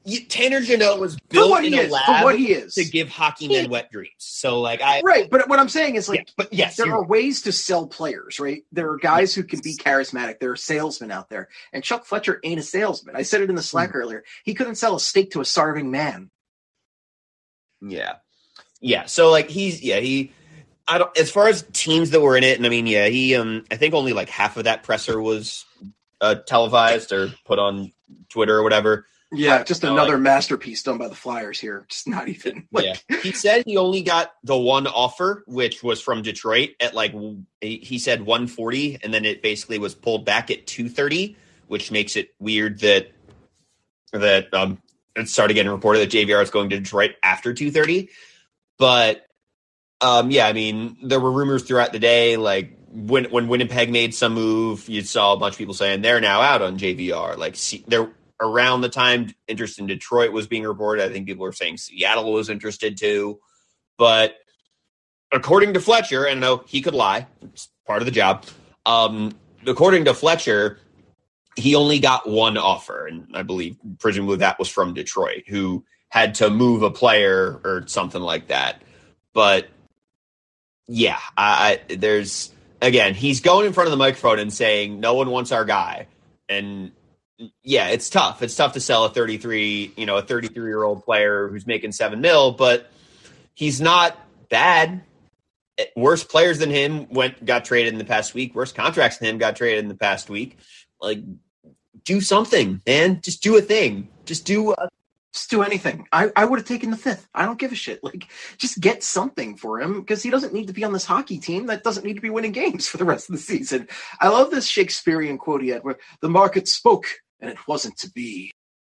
you, Tanner Jeannot was built in a is, lab for what he is. to give hockey men wet dreams. So, like, I right, but what I'm saying is, like, yeah, but yes, there are right. ways to sell players, right? There are guys who can be charismatic. There are salesmen out there, and Chuck Fletcher ain't a salesman. I said it in the Slack mm-hmm. earlier. He couldn't sell a steak to a starving man. Yeah, yeah. So, like, he's yeah he. I don't. As far as teams that were in it, and I mean, yeah, he. Um, I think only like half of that presser was uh, televised or put on Twitter or whatever. Yeah, just another like, masterpiece done by the Flyers here. Just not even. Like... Yeah, he said he only got the one offer, which was from Detroit at like he said one forty, and then it basically was pulled back at two thirty, which makes it weird that that um it started getting reported that J V R is going to Detroit after two thirty. But um, yeah, I mean, there were rumors throughout the day, like when when Winnipeg made some move, you saw a bunch of people saying they're now out on J V R. Like, see, they're. Around the time interest in Detroit was being reported, I think people were saying Seattle was interested too. But according to Fletcher, and I know he could lie, it's part of the job. Um, according to Fletcher, he only got one offer, and I believe presumably that was from Detroit, who had to move a player or something like that. But yeah, I, I there's again, he's going in front of the microphone and saying no one wants our guy, and yeah, it's tough. It's tough to sell a thirty-three, you know, a thirty-three-year-old player who's making seven mil, but he's not bad. Worse players than him went got traded in the past week. Worse contracts than him got traded in the past week. Like, do something, man. Just do a thing. Just do a Just do anything. I, I would have taken the fifth. I don't give a shit. Like, just get something for him because he doesn't need to be on this hockey team that doesn't need to be winning games for the rest of the season. I love this Shakespearean quote he had where the market spoke and it wasn't to be.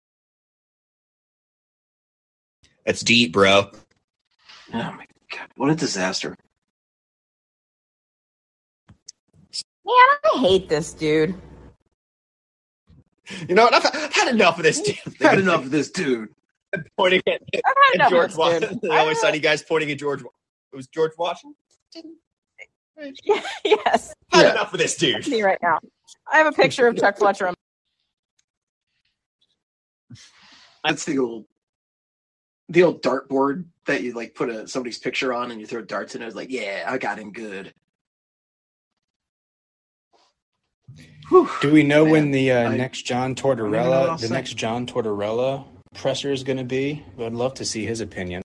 That's deep, bro. Oh my God. What a disaster. Man, I hate this dude. You know what? I've, I've had enough of this dude. I've had enough of this dude. Pointing at, I've at George Washington. The always sunny guys pointing at George. It was George Washington? Yes. I've had Yeah. enough of this dude. Me right now. I have a picture of Chuck Fletcher on That's the old, the old dartboard that you like put a somebody's picture on and you throw darts in it. It's like, yeah, I got him good. Whew, Do we know man. when the uh, I- next John I don't know what Tortorella, I'll the say. next John Tortorella presser is going to be? I'd love to see his opinion.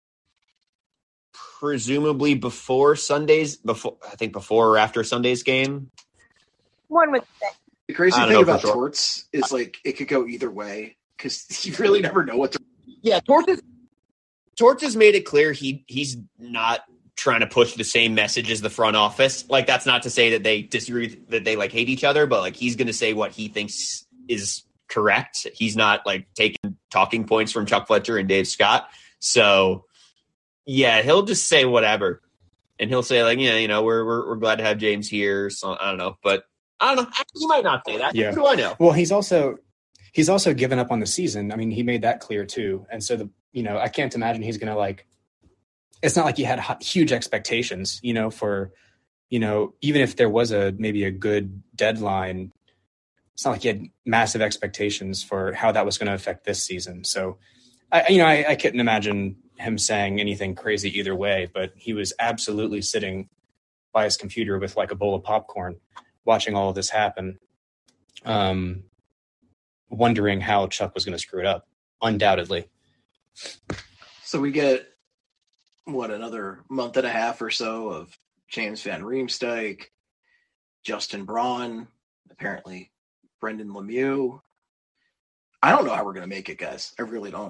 Presumably before Sunday's, before I think before or after Sunday's game. one with The crazy I don't thing know for about sure. Torts is like it could go either way because you really never know what to. Yeah, Torts has, Torts has made it clear he he's not trying to push the same message as the front office. Like, that's not to say that they disagree, that they like hate each other, but like he's going to say what he thinks is correct. He's not like taking talking points from Chuck Fletcher and Dave Scott. So yeah, he'll just say whatever, and he'll say like, yeah, you know, we're we're, we're glad to have James here. So I don't know, but I don't know. He might not say that. Yeah. What do I know? Well, he's also he's also given up on the season. I mean, he made that clear too. And so the you know, I can't imagine he's going to like. It's not like he had hu- huge expectations, you know, for you know, even if there was a maybe a good deadline, it's not like he had massive expectations for how that was going to affect this season. So, I you know, I, I couldn't imagine him saying anything crazy either way. But he was absolutely sitting by his computer with like a bowl of popcorn, watching all of this happen, um, wondering how Chuck was going to screw it up. Undoubtedly. So we get what another month and a half or so of James Van Riemsdyk, Justin Braun, apparently Brendan Lemieux. I don't know how we're going to make it, guys. I really don't.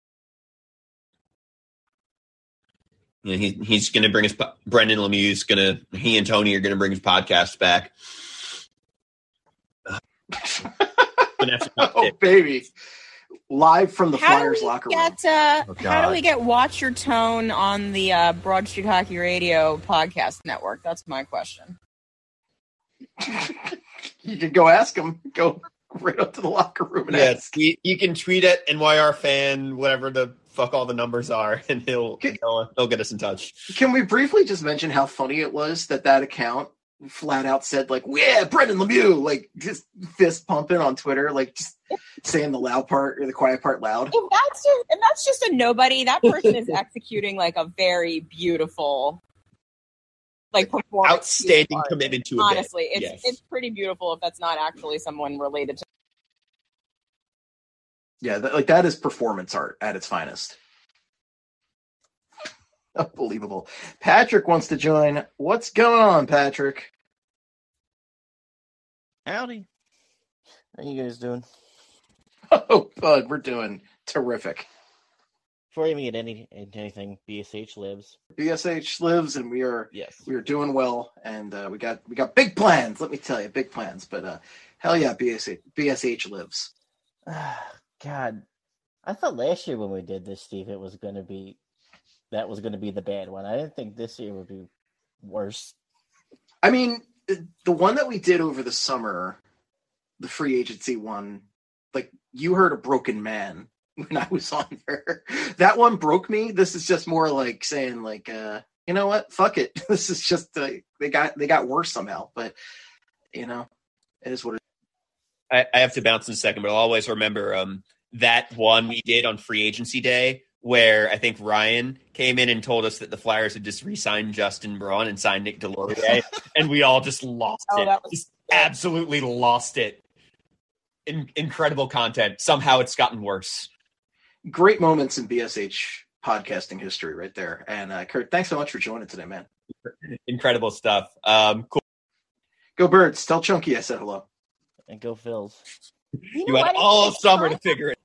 Yeah, he, he's going to bring his Brendan Lemieux's going to he and Tony are going to bring his podcast back. Oh baby, live from the How Flyers do we locker room. get, uh, Oh, how do God. we get Watch Your Tone on the uh, Broad Street Hockey Radio podcast network? That's my question. You can go ask him. Go right up to the locker room and Yeah, ask. you, you can tweet at N Y R fan, whatever the fuck all the numbers are, and he'll he'll, he'll get us in touch. Can we briefly just mention how funny it was that that account flat out said like, yeah, Brendan Lemieux, like just fist pumping on Twitter, like just saying the loud part or the quiet part loud. If that's just, if that's just a nobody, that person is executing like a very beautiful, like performance. Outstanding commitment to a Honestly, bit. it's Yes. it's pretty beautiful if that's not actually someone related to. Yeah, that, like that is performance art at its finest. Unbelievable. Patrick wants to join. What's going on, Patrick? Howdy. How you guys doing? Oh, bud, we're doing terrific. Before you even get any into anything, B S H lives. B S H lives, and we are yes, we are doing well, and uh, we got we got big plans. Let me tell you, big plans. But uh, hell yeah, B S H B S H lives. God, I thought last year when we did this, Steve, it was going to be that was going to be the bad one. I didn't think this year would be worse. I mean, the one that we did over the summer, the free agency one, like you heard a broken man when I was on there. That one broke me. This is just more like saying like, uh, you know what? Fuck it. This is just, uh, they got, they got worse somehow, but you know, it is what it is. I, I have to bounce in a second, but I'll always remember um, that one we did on free agency day where I think Ryan came in and told us that the Flyers had just re-signed Justin Braun and signed Nick Delorier, and we all just lost Oh, it. that was- Just absolutely lost it. In- incredible content. Somehow it's gotten worse. Great moments in B S H podcasting history right there. And uh, Kurt, thanks so much for joining today, man. Incredible stuff. Um, cool. Go Birds. Tell Chunky I said hello. And go Phils. You, You had all of summer to figure it.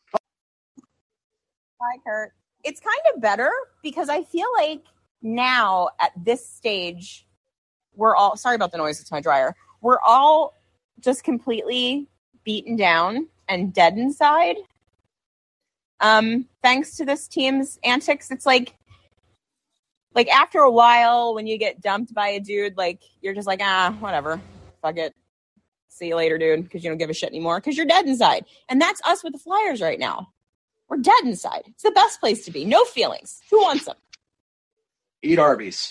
Hi, Kurt. It's kind of better because I feel like now at this stage, we're all sorry about the noise. It's my dryer. We're all just completely beaten down and dead inside. Um, thanks to this team's antics, it's like, like after a while, when you get dumped by a dude, like you're just like, ah, whatever, fuck it. See you later, dude, because you don't give a shit anymore because you're dead inside. And that's us with the Flyers right now. We're dead inside. It's the best place to be. No feelings. Who wants them? Eat Arby's.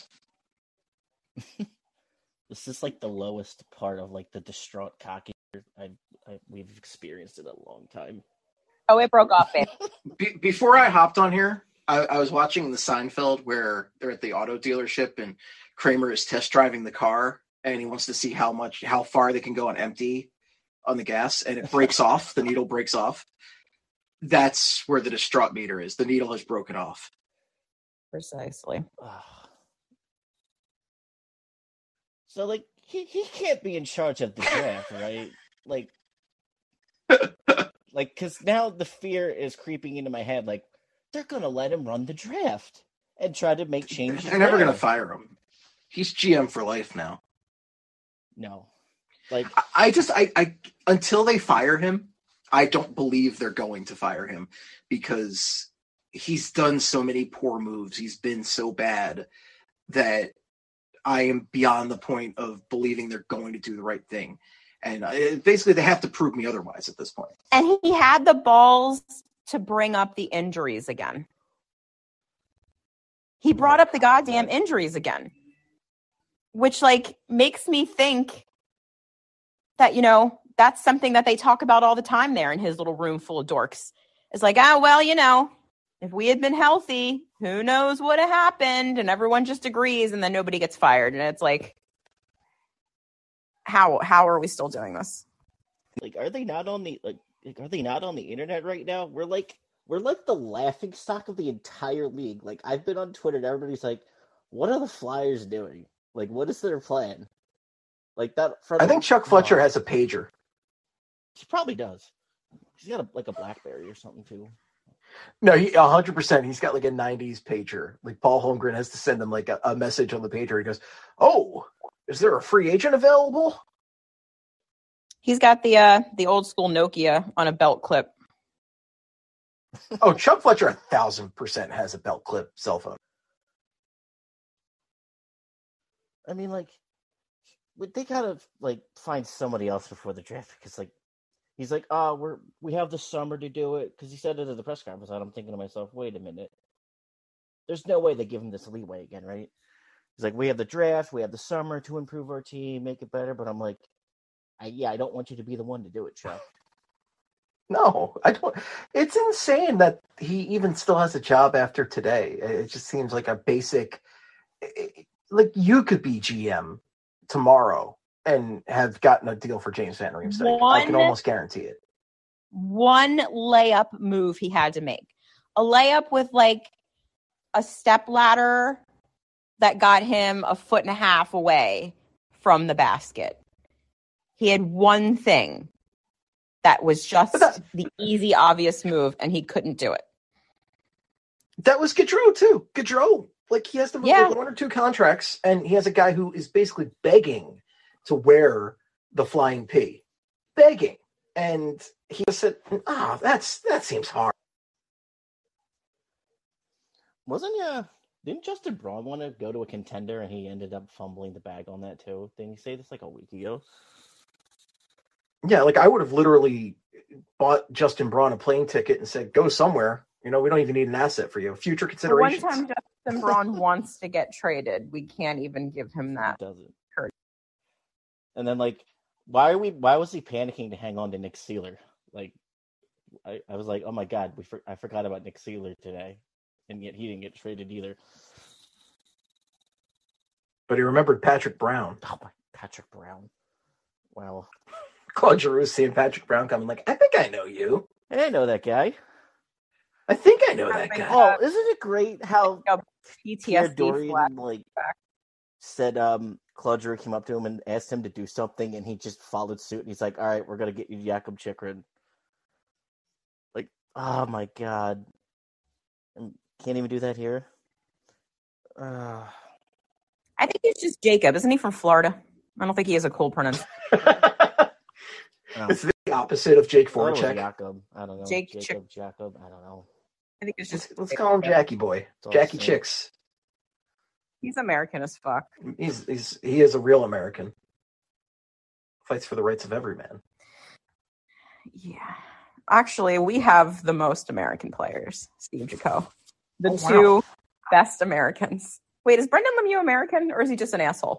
This is like the lowest part of like the distraught cocky I, I we've experienced in a long time. Oh, it broke off, babe. Be- before I hopped on here, I-, I was watching the Seinfeld where they're at the auto dealership and Kramer is test driving the car and he wants to see how much, how far they can go on empty on the gas, and it breaks off. The needle breaks off. That's where the distraught meter is. The needle has broken off. Precisely. So, like, he, he can't be in charge of the draft, right? Like, like, because now the fear is creeping into my head. Like, they're going to let him run the draft and try to make changes. They're never going to there. fire him. He's G M for life now. No. Like, I, I just, I, I, until they fire him, I don't believe they're going to fire him because he's done so many poor moves. He's been so bad that I am beyond the point of believing they're going to do the right thing. And uh, basically they have to prove me otherwise at this point. And he had the balls to bring up the injuries again. He brought up the goddamn injuries again, which like makes me think that, you know, that's something that they talk about all the time there in his little room full of dorks. It's like, ah, well, you know, if we had been healthy, who knows what had happened? And everyone just agrees, and then nobody gets fired. And it's like, how how are we still doing this? like, are they not on the like? like are they not on the internet right now? We're like, we're like the laughing stock of the entire league. Like, I've been on Twitter, and everybody's like, "What are the Flyers doing? Like, what is their plan?" Like that. From, I think Chuck Fletcher has a pager. He probably does. He's got a, like a BlackBerry or something too. No, he one hundred percent. He's got like a nineties pager. Like Paul Holmgren has to send him like a, a message on the pager. He goes, "Oh, is there a free agent available?" He's got the uh, the old school Nokia on a belt clip. Oh, Chuck Fletcher a thousand percent has a belt clip cell phone. I mean, like, they gotta like find somebody else before the draft because, like, he's like, "Oh, we're we have the summer to do it," because he said it at the press conference. And I'm thinking to myself, "Wait a minute, there's no way they give him this leeway again, right?" He's like, we have the draft, we have the summer to improve our team, make it better. But I'm like, I, yeah, I don't want you to be the one to do it, Chuck. No, I don't. It's insane that he even still has a job after today. It just seems like a basic, like you could be G M tomorrow and have gotten a deal for James Van Riemsdyk. I can almost guarantee it. One layup move he had to make. A layup with like a step ladder that got him a foot and a half away from the basket. He had one thing that was just the easy, obvious move, and he couldn't do it. That was Gaudreau, too. Gaudreau, like, he has to move Yeah. one or two contracts, and he has a guy who is basically begging to wear the flying P. Begging. And he just said, oh, that's that seems hard. Wasn't yeah? Didn't Justin Braun want to go to a contender and he ended up fumbling the bag on that too? Didn't he say this like a week ago? Yeah, like, I would have literally bought Justin Braun a plane ticket and said, go somewhere. You know, we don't even need an asset for you. Future considerations. One time Justin Braun wants to get traded, we can't even give him that. He doesn't. And then, like, why are we? Why was he panicking to hang on to Nick Seeler? Like, I, I was like, oh my god, we for, I forgot about Nick Seeler today, and yet he didn't get traded either. But he remembered Patrick Brown. Oh my, Patrick Brown. Wow. Claude Giroux seeing Patrick Brown coming like, I think I know you. Hey, I know that guy. I think I know that guy. Oh, isn't it great how P T Pierre S D Dorian flag. like said um Claude Giroux came up to him and asked him to do something, and he just followed suit. And he's like, "All right, we're gonna get you Jakob Chychrun." Like, oh my god, and can't even do that here. Uh... I think he's just Jacob. Isn't he from Florida? I don't think he has a cool pronunciation. It's the opposite of Jake Oh, Voracek. Jacob. I don't know. Jake Jacob, Jacob. I don't know. I think it's just. Let's, let's call him Jackie Boy. It's all Jackie the same. Chicks. He's American as fuck. He's he's he is a real American. Fights for the rights of every man. Yeah. Actually, we have the most American players, Steve Jaco. The Oh, wow. two best Americans. Wait, is Brendan Lemieux American or is he just an asshole?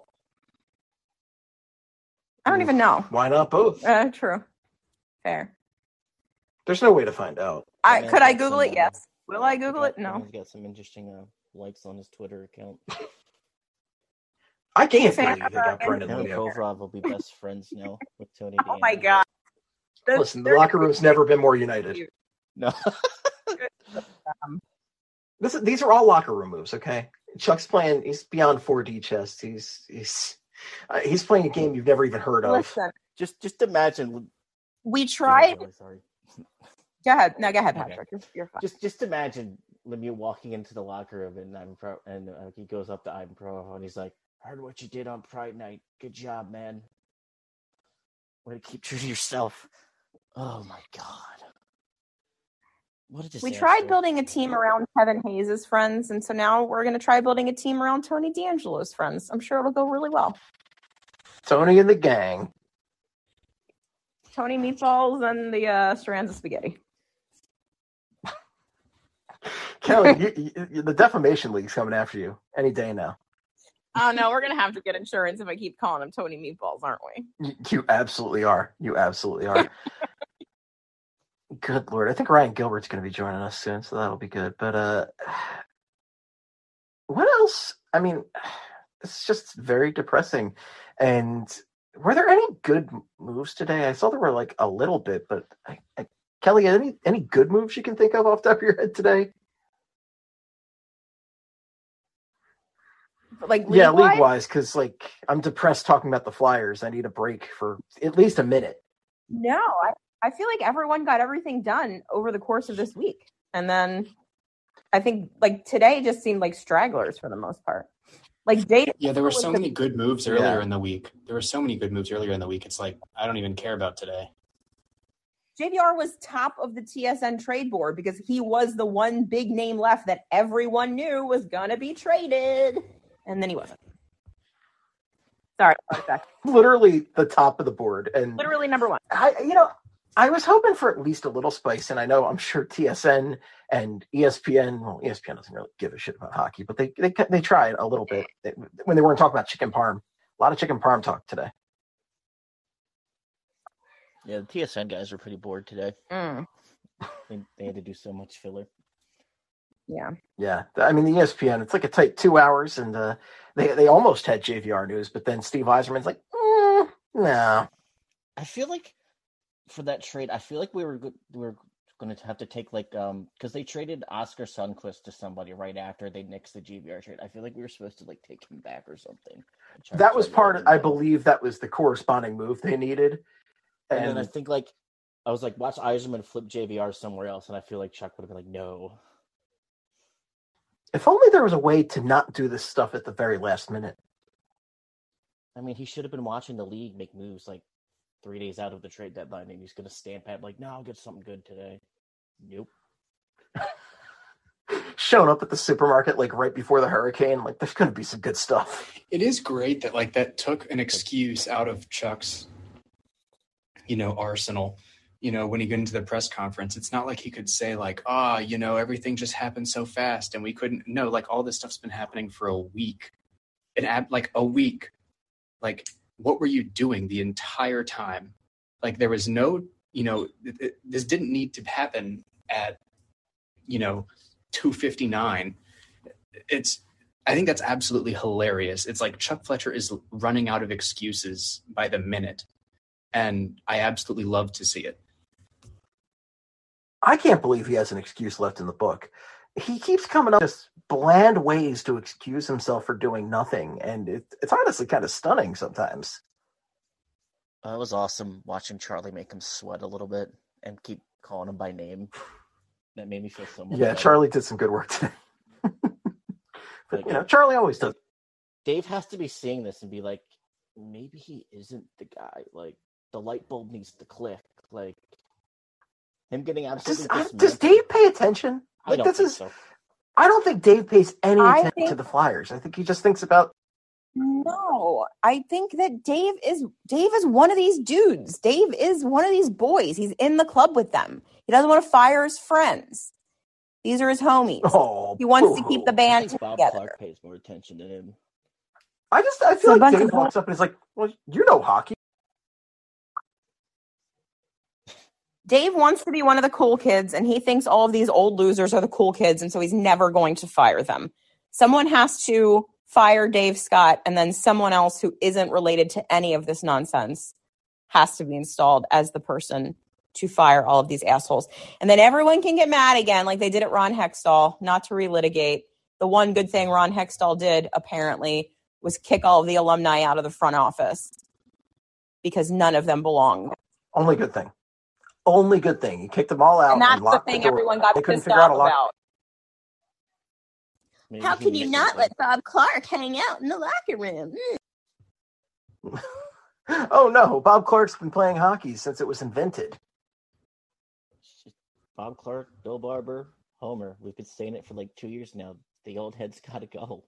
I don't even know. Why not both? Uh, true. Fair. There's no way to find out. I Yeah, could I that's Google some, it? uh, Yes. Will I Google got- it? No. He's got some interesting uh, likes on his Twitter account. I can't Fan believe they got of Brendan Him and Lemieux. Kovrov will be best friends now with Tony. Oh my DeAngelo. god. The- Listen, the they're- locker room's never been more united. No. um, This, these are all locker room moves, okay? Chuck's playing. He's beyond four D chess. He's he's uh, he's playing a game you've never even heard of. Listen, Just just imagine. we Yeah, tried. really sorry. Go ahead. No, go ahead, Okay. Patrick. You're, you're fine. Just just imagine Lemieux walking into the locker room and I'm pro and uh, he goes up to Ivan Pro and he's like, "Heard what you did on Pride Night. Good job, man. Way to keep true to yourself." Oh my god. What a disaster. We tried building a team around Kevin Hayes' friends, and so now we're going to try building a team around Tony DeAngelo's friends. I'm sure it'll go really well. Tony and the gang. Tony Meatballs and the uh, strands of spaghetti. Kelly, you, you, the defamation league's coming after you any day now. Oh no, we're going to have to get insurance if I keep calling him Tony Meatballs, aren't we? You, you absolutely are. You absolutely are. Good Lord. I think Ryan Gilbert's going to be joining us soon, so that'll be good. But uh, what else? I mean, it's just very depressing. And were there any good moves today? I saw there were like a little bit, but I, I, Kelly, any any good moves you can think of off the top of your head today? Like Yeah, league-wise? league-wise, because like I'm depressed talking about the Flyers. I need a break for at least a minute. No, I, I feel like everyone got everything done over the course of this week. And then I think like today just seemed like stragglers for the most part. Like day Yeah, there were so was many the- good moves earlier Yeah. in the week. There were so many good moves earlier in the week. It's like, I don't even care about today. J V R was top of the T S N trade board because he was the one big name left that everyone knew was going to be traded. And then he wasn't. Sorry. sorry, sorry. Literally the top of the board. And Literally number one. I, you know, I was hoping for at least a little spice, and I know I'm sure T S N and E S P N. Well, E S P N doesn't really give a shit about hockey, but they they they tried a little bit they, when they weren't talking about chicken parm. A lot of chicken parm talk today. Yeah, the T S N guys were pretty bored today. Mm. They, they had to do so much filler. Yeah. Yeah. I mean, the E S P N, it's like a tight two hours, and uh, they, they almost had J V R news, but then Steve Eiserman's like, mm, no. I feel like for that trade, I feel like we were, we were going to have to take, like, um, because they traded Oscar Sundqvist to somebody right after they nixed the J V R trade. I feel like we were supposed to, like, take him back or something. That was part of, I believe that was the corresponding move they needed. And, and then I think, like, I was like, watch Eiserman flip J V R somewhere else, and I feel like Chuck would have been like, no. If only there was a way to not do this stuff at the very last minute. I mean, he should have been watching the league make moves, like, three days out of the trade deadline, and he's going to stamp at, like, no, I'll get something good today. Nope. Showing up at the supermarket, like, right before the hurricane, like, there's going to be some good stuff. It is great that, like, that took an excuse out of Chuck's, you know, arsenal. You know, when he got into the press conference, it's not like he could say, like, ah, oh, you know, everything just happened so fast and we couldn't. No, like, all this stuff's been happening for a week. And, like, a week. Like, what were you doing the entire time? Like, there was no, you know, it, it, this didn't need to happen at, you know, two fifty-nine. It's, I think that's absolutely hilarious. It's like Chuck Fletcher is running out of excuses by the minute. And I absolutely love to see it. I can't believe he has an excuse left in the book. He keeps coming up with just bland ways to excuse himself for doing nothing, and it, it's honestly kind of stunning sometimes. Uh, it was awesome watching Charlie make him sweat a little bit and keep calling him by name. That made me feel so much Yeah, better. Charlie did some good work today. But, like, you know, Charlie always does. Dave has to be seeing this and be like, maybe he isn't the guy. Like, the light bulb needs to click. Like, him getting absolutely Does, does Dave pay attention? I Like, don't this think is. so. I don't think Dave pays any I attention think- to the Flyers. I think he just thinks about. No, I think that Dave is Dave is one of these dudes. Dave is one of these boys. He's in the club with them. He doesn't want to fire his friends. These are his homies. Oh, he wants to boo. keep the I band think Bob together. Clark pays more attention to him. I just. I So feel a like bunch Dave of- walks up and is like, "Well, you know hockey." Dave wants to be one of the cool kids, and he thinks all of these old losers are the cool kids, and so he's never going to fire them. Someone has to fire Dave Scott, and then someone else who isn't related to any of this nonsense has to be installed as the person to fire all of these assholes. And then everyone can get mad again, like they did at Ron Hextall, not to relitigate. The one good thing Ron Hextall did, apparently, was kick all of the alumni out of the front office because none of them belonged. Only good thing. Only good thing. He kicked them all out. And that's the locked thing door. everyone got They couldn't pissed figure out off a lock. about. Maybe How he can you misses not them. let Bob Clark hang out in the locker room? Mm. Oh no, Bob Clark's been playing hockey since it was invented. Bob Clark, Bill Barber, Homer. We've been saying it for like two years now. The old head's got to go.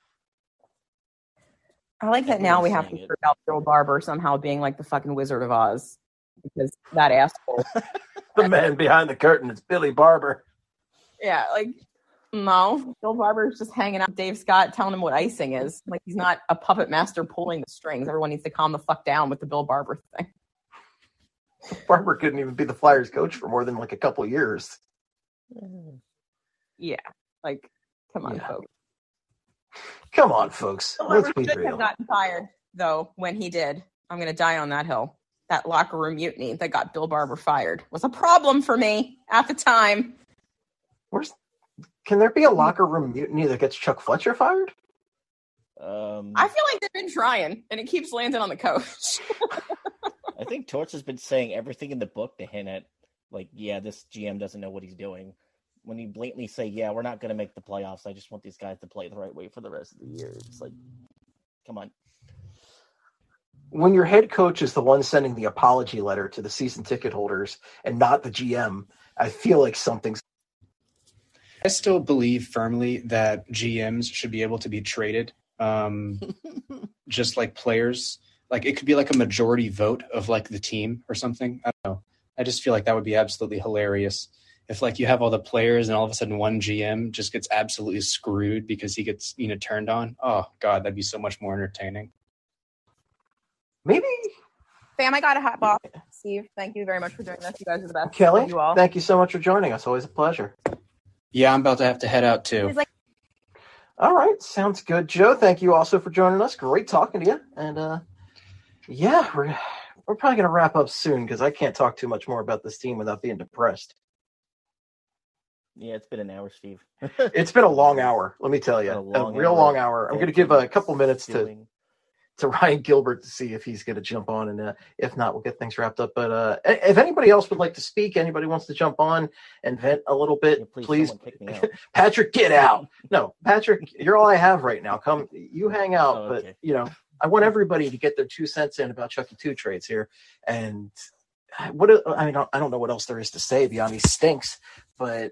I like that now we have to Everyone's saying figure out Bill Barber somehow being like the fucking Wizard of Oz because that asshole. The man behind the curtain is Billy Barber. Yeah, like no, Bill Barber's just hanging out with Dave Scott, telling him what icing is. Like he's not a puppet master pulling the strings. Everyone needs to calm the fuck down with the Bill Barber thing. Barber couldn't even be the Flyers coach for more than like a couple years. Yeah, like come on, Yeah. folks. Come on, folks. Bill Let's Barber be should real. have gotten fired though when he did. I'm gonna die on that hill. That locker room mutiny that got Bill Barber fired was a problem for me at the time. Where's? Can there be a locker room mutiny that gets Chuck Fletcher fired? Um, I feel like they've been trying, and it keeps landing on the coach. I think Torts has been saying everything in the book to hint at, like, yeah, this G M doesn't know what he's doing. When you blatantly say, yeah, we're not going to make the playoffs, I just want these guys to play the right way for the rest of the year. It's like, come on. When your head coach is the one sending the apology letter to the season ticket holders and not the G M, I feel like something's. I still believe firmly that G Ms should be able to be traded, um, just like players. Like it could be like a majority vote of like the team or something. I don't know. I just feel like that would be absolutely hilarious. If like you have all the players and all of a sudden one G M just gets absolutely screwed because he gets, you know, turned on. Oh God, that'd be so much more entertaining. Maybe. Fam, I gotta hop off. Steve, thank you very much for doing this. You guys are the best. Kelly, Love you all. thank you so much for joining us. Always a pleasure. Yeah, I'm about to have to head out too. He's like, all right, sounds good. Joe, thank you also for joining us. Great talking to you. And uh, yeah, we're we're probably gonna wrap up soon because I can't talk too much more about this team without being depressed. Yeah, it's been an hour, Steve. It's been a long hour, let me tell you. A, a real hour. long hour. I'm going to give a couple minutes to, to Ryan Gilbert to see if he's going to jump on, and uh, if not, we'll get things wrapped up. But uh, if anybody else would like to speak, anybody wants to jump on and vent a little bit, yeah, please. please. Patrick, get out. No, Patrick, you're all I have right now. Come, you hang out. Oh, okay. But, you know, I want everybody to get their two cents in about Chucky two trades here. And what I mean, I don't know what else there is to say beyond he stinks, but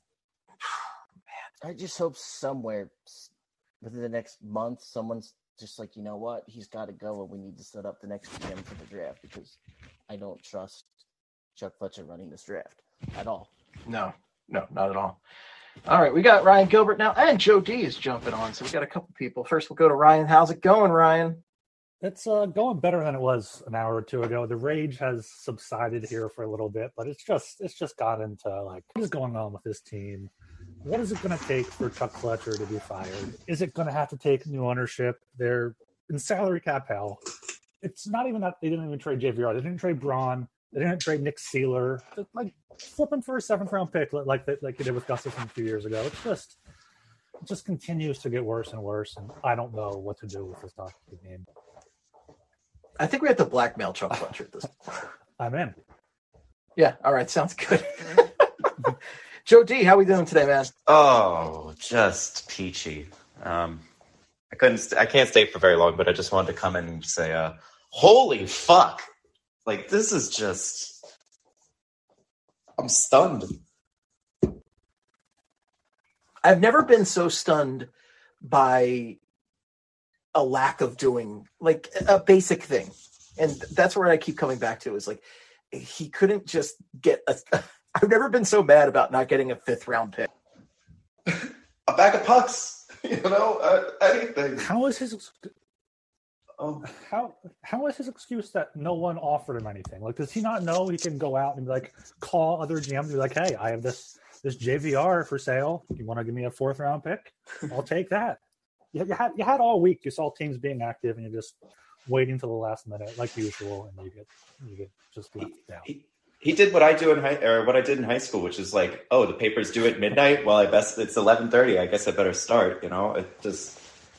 I just hope somewhere within the next month, someone's just like, you know what, he's got to go, and we need to set up the next G M for the draft because I don't trust Chuck Fletcher running this draft at all. No, no, not at all. All right, we got Ryan Gilbert now, and Joe D is jumping on, so we got a couple people. First, we'll go to Ryan. How's it going, Ryan? It's uh, going better than it was an hour or two ago. The rage has subsided here for a little bit, but it's just it's just got into like, what is going on with this team? What is it going to take for Chuck Fletcher to be fired? Is it going to have to take new ownership? They're in salary cap hell. It's not even that they didn't even trade J V R. They didn't trade Braun. They didn't trade Nick Seeler. Just like flipping for a seventh round pick like they, like they did with Gustafson a few years ago. It's just it just continues to get worse and worse, and I don't know what to do with this hockey game. I think we have to blackmail Chuck Fletcher at this point. I'm in. Yeah. All right. Sounds good. Joe D, how we doing today, man? Oh, just peachy. Um, I couldn't. St- I can't stay for very long, but I just wanted to come in and say, uh, "Holy fuck! Like this is just. I'm stunned." I've never been so stunned by a lack of doing like a basic thing, and that's where I keep coming back to is like he couldn't just get a. I've never been so mad about not getting a fifth round pick. A bag of pucks, you know, uh, anything. How is his um, how how is his excuse that no one offered him anything? Like, does he not know he can go out and be like call other G Ms and be like, hey, I have this this J V R for sale. You want to give me a fourth round pick? I'll take that. You, you had you had all week. You saw teams being active, and you're just waiting till the last minute, like usual, and you get you get just left down. He, He did what I do in high, or what I did in high school, which is like, oh, the papers due at midnight. Well, I best it's eleven thirty. I guess I better start. You know, it just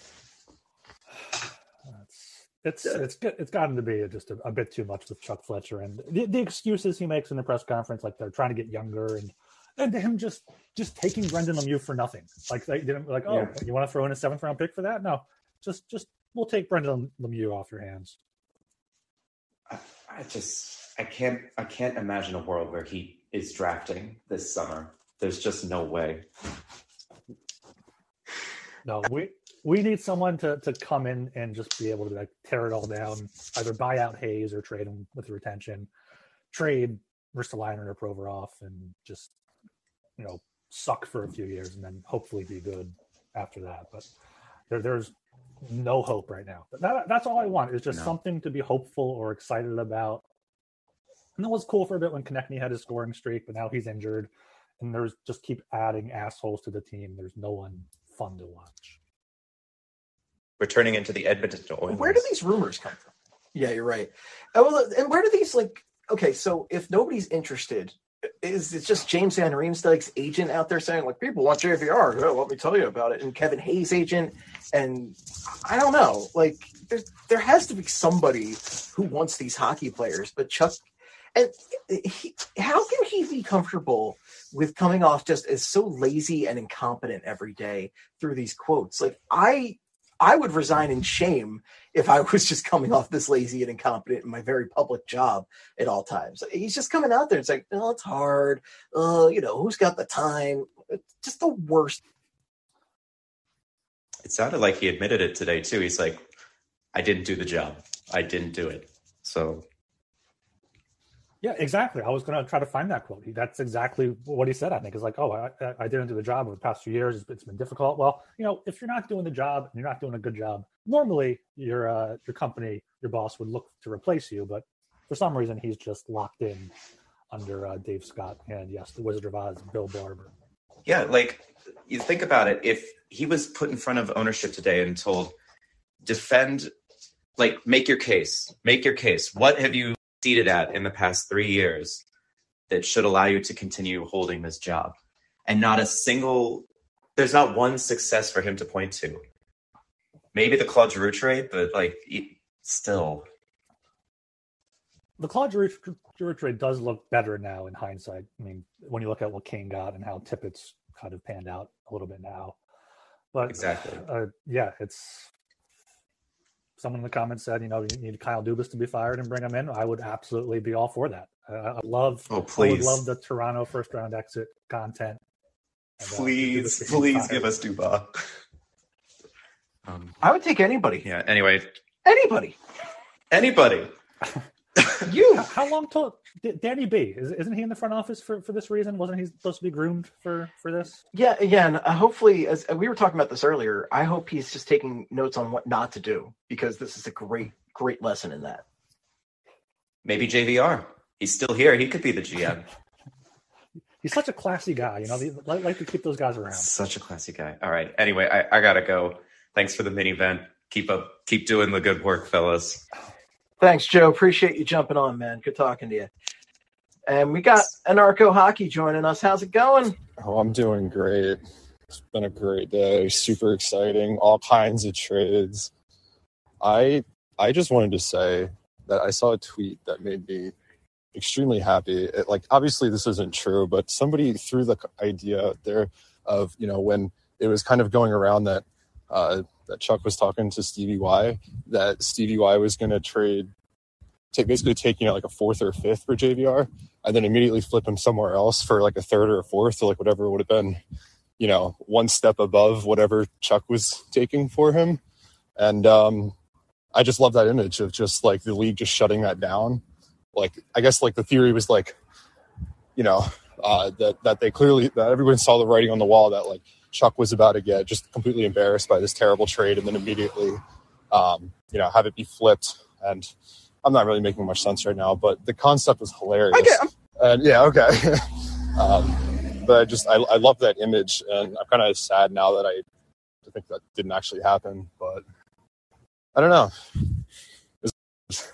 it's it's it's, it's gotten to be just a, a bit too much with Chuck Fletcher and the, the excuses he makes in the press conference, like they're trying to get younger, and and him just just taking Brendan Lemieux for nothing. Like they didn't like, oh, yeah. You want to throw in a seventh round pick for that? No, just just we'll take Brendan Lemieux off your hands. I, I just. I can't I can't imagine a world where he is drafting this summer. There's just no way. No, we we need someone to, to come in and just be able to like tear it all down, either buy out Hayes or trade him with retention, trade Ristolainen or Provorov, and just, you know, suck for a few years and then hopefully be good after that. But there, there's no hope right now. But that, that's all I want is just no. something to be hopeful or excited about. And it was cool for a bit when Konechny had his scoring streak, but now he's injured, and there's just keep adding assholes to the team. There's no one fun to watch. We're turning into the Edmonton Oilers. Where do these rumors come from? Yeah, you're right. Oh, well, and where do these like? Okay, so if nobody's interested, is it just James Van Riemsdyk's agent out there saying like people want J V R? Oh, let me tell you about it. And Kevin Hayes' agent, and I don't know. Like there, there has to be somebody who wants these hockey players, but Chuck. And he, how can he be comfortable with coming off just as so lazy and incompetent every day through these quotes? Like I, I would resign in shame if I was just coming off this lazy and incompetent in my very public job at all times. He's just coming out there and saying, "Oh, it's hard. Uh, you know, who's got the time?" It's just the worst. It sounded like he admitted it today too. He's like, "I didn't do the job. I didn't do it." So. Yeah, exactly. I was going to try to find that quote. He, that's exactly what he said, I think. It's like, oh, I, I didn't do the job over the past few years. It's, it's been difficult. Well, you know, if you're not doing the job and you're not doing a good job, normally your uh, your company, your boss would look to replace you. But for some reason, he's just locked in under uh, Dave Scott. And yes, the Wizard of Oz, Bill Barber. Yeah, like you think about it. If he was put in front of ownership today and told, defend, like make your case, make your case. What have you seated at in the past three years that should allow you to continue holding this job? And not a single, there's not one success for him to point to. Maybe the Claude Giroux trade, but like still. The Claude Giroux trade does look better now in hindsight. I mean, when you look at what Kane got and how Tippett's kind of panned out a little bit now. But exactly. Uh, yeah, it's, someone in the comments said, you know, you need Kyle Dubas to be fired and bring him in. I would absolutely be all for that. Uh, I love, oh, please. I would love the Toronto first round exit content. And, uh, please, please give us Dubas. Um, I would take anybody. Yeah. Anyway, anybody, anybody. You. How long till Danny B? Is, isn't he in the front office for, for this reason? Wasn't he supposed to be groomed for, for this? Yeah. Again, uh, hopefully, as we were talking about this earlier, I hope he's just taking notes on what not to do, because this is a great, great lesson in that. Maybe J V R. He's still here. He could be the G M. He's such a classy guy. You know, they like, like to keep those guys around. Such a classy guy. All right. Anyway, I, I gotta go. Thanks for the mini vent. Keep up. Keep doing the good work, fellas. Thanks, Joe. Appreciate you jumping on, man. Good talking to you. And we got Anarcho Hockey joining us. How's it going? Oh, I'm doing great. It's been a great day. Super exciting. All kinds of trades. I I just wanted to say that I saw a tweet that made me extremely happy. It, like, obviously this isn't true, but somebody threw the idea out there of, you know, when it was kind of going around that uh, that Chuck was talking to Stevie Y, that Stevie Y was going to trade, take, basically taking out like a fourth or a fifth for J V R, and then immediately flip him somewhere else for like a third or a fourth, or like whatever would have been, you know, one step above whatever Chuck was taking for him. And um, I just love that image of just like the league just shutting that down. Like, I guess like the theory was like, you know, uh, that, that they clearly, that everyone saw the writing on the wall that like Chuck was about to get just completely embarrassed by this terrible trade, and then immediately, um, you know, have it be flipped. And I'm not really making much sense right now, but the concept was hilarious. Okay. And yeah, okay. um, but I just, I, I love that image, and I'm kind of sad now that I, I think that didn't actually happen, but I don't know. It's-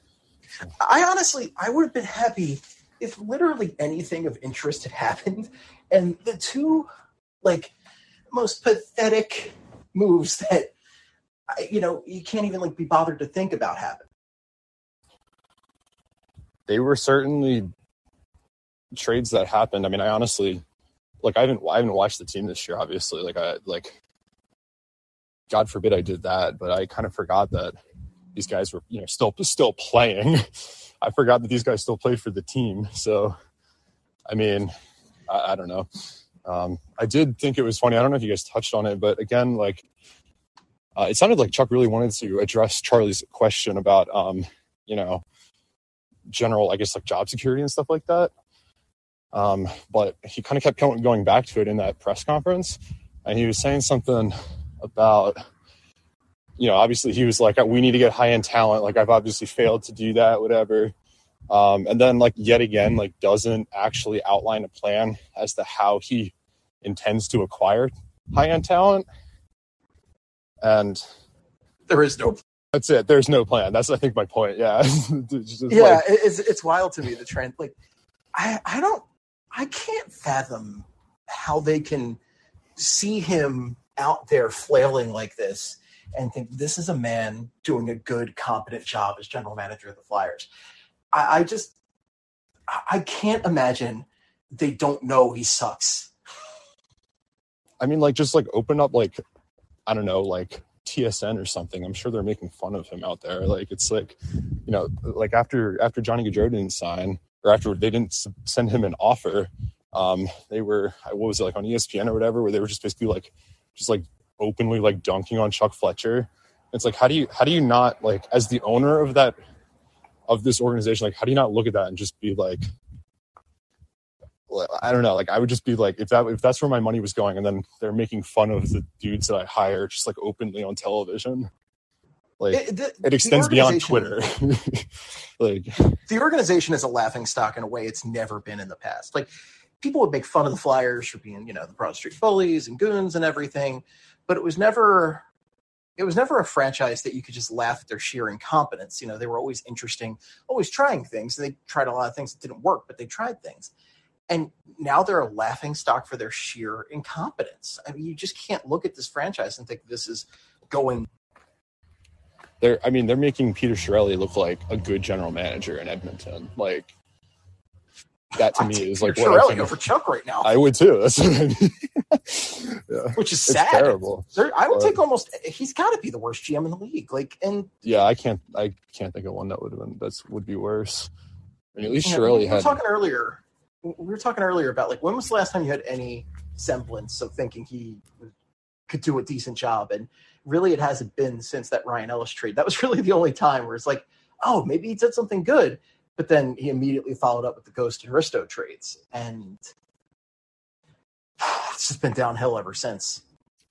I honestly, I would have been happy if literally anything of interest had happened, and the two, like, most pathetic moves that, you know, you can't even like be bothered to think about happen. They were certainly trades that happened. I mean, I honestly, like, I haven't, I haven't watched the team this year, obviously. Like, I, like, God forbid I did that, but I kind of forgot that these guys were, you know, still, still playing. I forgot that these guys still played for the team. So, I mean, I, I don't know. Um, I did think it was funny. I don't know if you guys touched on it, but again, like, uh, it sounded like Chuck really wanted to address Charlie's question about, um, you know, general, I guess, like job security and stuff like that. Um, but he kind of kept going back to it in that press conference, and he was saying something about, you know, obviously he was like, we need to get high-end talent. Like, I've obviously failed to do that, whatever. Um, and then, like, yet again, like, doesn't actually outline a plan as to how he intends to acquire high-end talent. And there is no. That's it. There's no plan. That's, I think, my point. Yeah. Just yeah, like, it's it's wild to me, the trend. Like, I I don't, I can't fathom how they can see him out there flailing like this and think this is a man doing a good, competent job as general manager of the Flyers. I, I just, I can't imagine they don't know he sucks. I mean, like, just like open up, like, I don't know, like T S N or something. I'm sure they're making fun of him out there. Like, it's like, you know, like after after Johnny Gaudreau didn't sign, or after they didn't send him an offer, um, they were, what was it, like on E S P N or whatever, where they were just basically like, just like openly like dunking on Chuck Fletcher. It's like, how do you, how do you not, like, as the owner of that, of this organization, like, how do you not look at that and just be like, I don't know, like I would just be like, if that if that's where my money was going, and then they're making fun of the dudes that I hire just like openly on television, like it, the, it extends beyond Twitter. Like the organization is a laughing stock in a way it's never been in the past. Like people would make fun of the Flyers for being, you know, the Broad Street bullies and goons and everything, but it was never it was never a franchise that you could just laugh at their sheer incompetence. You know, they were always interesting, always trying things. They tried a lot of things that didn't work, but they tried things. And now they're a laughing stock for their sheer incompetence. I mean, you just can't look at this franchise and think this is going. They're, I mean, they're making Peter Chiarelli look like a good general manager in Edmonton. Like that to I'd me is Peter like Chiarelli what I over Chuck right now. I would too. That's what I mean. Yeah. Which is It's sad. terrible. There, I would But- take almost. He's got to be the worst G M in the league. Like, and Yeah, I can't. I can't think of one that would have been that's would be worse. I mean, at least you know, Chiarelli we were had. talking earlier. We were talking earlier about like when was the last time you had any semblance of thinking he could do a decent job, and really it hasn't been since that Ryan Ellis trade. That was really the only time where it's like, oh, maybe he did something good, but then he immediately followed up with the Ghost and Risto trades, and it's just been downhill ever since.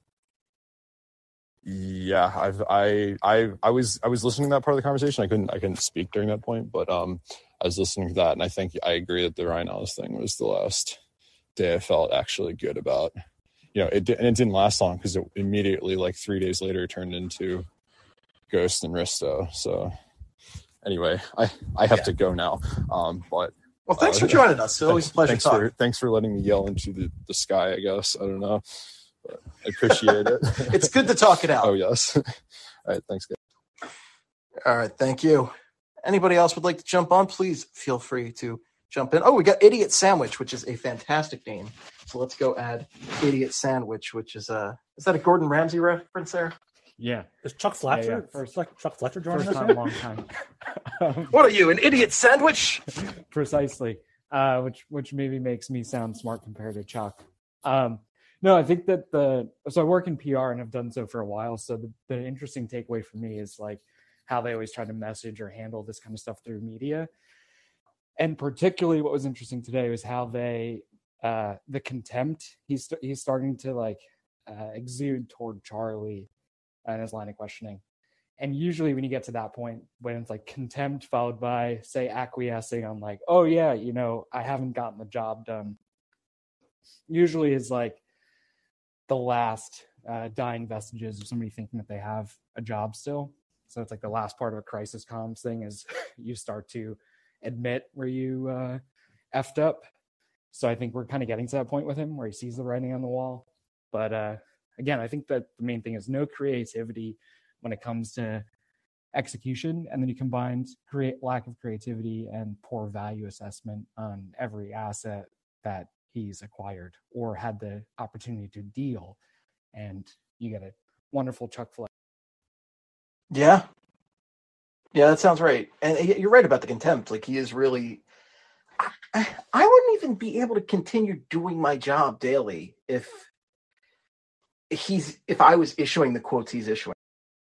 Yeah, I've I I I was I was listening to that part of the conversation. I couldn't I couldn't speak during that point, but um, I was listening to that, and I think I agree that the Ryan Ellis thing was the last day I felt actually good about. You know, it and it didn't last long because it immediately, like three days later, turned into Ghost and Risto. So anyway, I I have Yeah. to go now. Um, but Well, thanks uh, for joining us. It's always a pleasure Thanks talking. for thanks for letting me yell into the, the sky. I guess I don't know, but I appreciate it. It's good to talk it out. Oh yes. All right, thanks, guys. All right, thank you. Anybody else would like to jump on, please feel free to jump in. Oh, we got Idiot Sandwich, which is a fantastic name. So let's go add Idiot Sandwich, which is a is that a Gordon Ramsay reference there? Yeah. Is Chuck Fletcher? Yeah, yeah. First, like Chuck Fletcher joining First us time, here? long time. Um, What are you, an idiot sandwich? Precisely. Uh, which which maybe makes me sound smart compared to Chuck. Um, no, I think that the so I work in P R and I've done so for a while. So the, the interesting takeaway for me is like how they always try to message or handle this kind of stuff through media. And particularly what was interesting today was how they uh, the contempt he's he's starting to like uh, exude toward Charlie and his line of questioning. And usually when you get to that point, when it's like contempt followed by, say, acquiescing on like, oh, yeah, you know, I haven't gotten the job done, usually is like the last uh, dying vestiges of somebody thinking that they have a job still. So it's like the last part of a crisis comms thing is you start to admit where you uh, effed up. So I think we're kind of getting to that point with him where he sees the writing on the wall. But uh, again, I think that the main thing is no creativity when it comes to execution, and then you combined create lack of creativity and poor value assessment on every asset that he's acquired or had the opportunity to deal, and you get a wonderful Chuck Fletcher. Yeah. Yeah, that sounds right. And you're right about the contempt. Like he is really I, I wouldn't even be able to continue doing my job daily if he's if I was issuing the quotes he's issuing.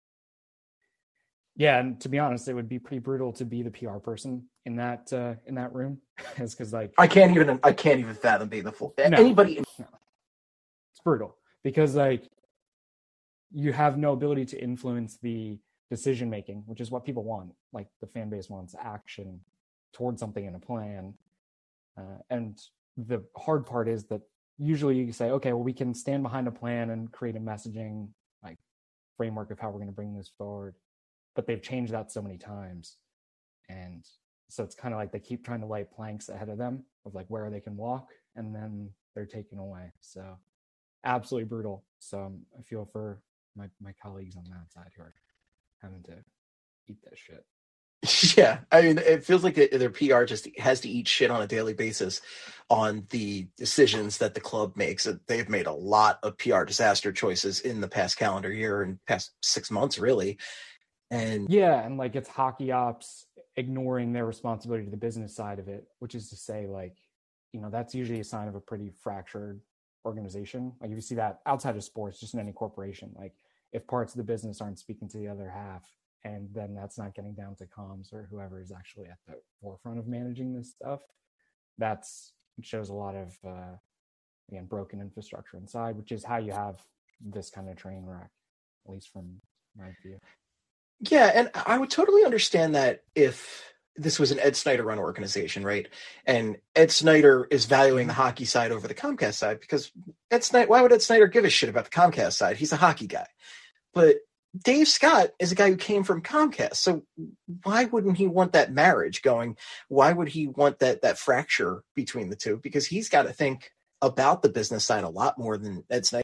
Yeah, and to be honest, it would be pretty brutal to be the P R person in that uh, in that room, is because like I can't even I can't even fathom being the full No. anybody. No. It's brutal because like you have no ability to influence the decision making, which is what people want. Like the fan base wants action towards something in a plan, uh, and the hard part is that usually you say, okay, well, we can stand behind a plan and create a messaging like framework of how we're going to bring this forward. But they've changed that so many times. And so it's kind of like they keep trying to light planks ahead of them of like where they can walk, and then they're taken away. So absolutely brutal. So um, I feel for my, my colleagues on that side who are having to eat that shit. Yeah, I mean, it feels like their P R just has to eat shit on a daily basis on the decisions that the club makes. They've made a lot of P R disaster choices in the past calendar year and past six months, really. And yeah, and like it's hockey ops ignoring their responsibility to the business side of it, which is to say, like, you know, that's usually a sign of a pretty fractured organization. Like if you see that outside of sports, just in any corporation, like if parts of the business aren't speaking to the other half, and then that's not getting down to comms or whoever is actually at the forefront of managing this stuff. That's it shows a lot of uh, again broken infrastructure inside, which is how you have this kind of train wreck, at least from my view. Yeah, and I would totally understand that if this was an Ed Snyder run organization, right? And Ed Snyder is valuing the hockey side over the Comcast side, because Ed Snyder, why would Ed Snyder give a shit about the Comcast side? He's a hockey guy. But Dave Scott is a guy who came from Comcast. So why wouldn't he want that marriage going? Why would he want that that fracture between the two? Because he's got to think about the business side a lot more than Ed Snyder.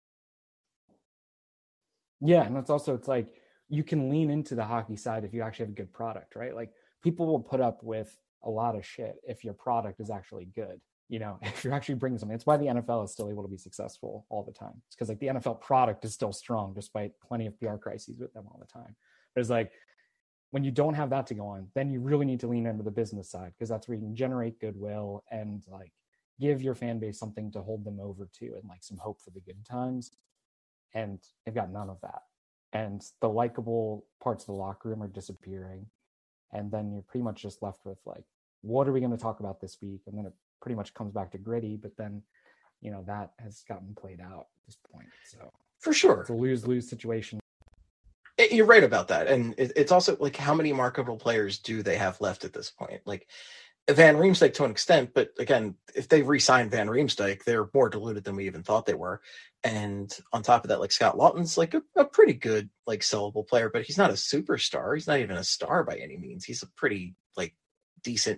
Yeah, and that's also, it's like, you can lean into the hockey side if you actually have a good product, right? Like, people will put up with a lot of shit if your product is actually good. You know, if you're actually bringing something. It's why the N F L is still able to be successful all the time. It's because like the N F L product is still strong despite plenty of P R crises with them all the time. But it's like, when you don't have that to go on, then you really need to lean into the business side, because that's where you can generate goodwill and like give your fan base something to hold them over to and like some hope for the good times. And they've got none of that. And the likable parts of the locker room are disappearing. And then you're pretty much just left with like, what are we going to talk about this week? And then it pretty much comes back to gritty, but then, you know, that has gotten played out at this point. So for sure, it's a lose-lose situation. It, you're right about that. And it, it's also like, how many marketable players do they have left at this point? Like Van Riemsdyk to an extent, but again, if they re-sign Van Riemsdyk, they're more diluted than we even thought they were. And on top of that, like Scott Lawton's like a, a pretty good, like sellable player, but he's not a superstar. He's not even a star by any means. He's a pretty like decent.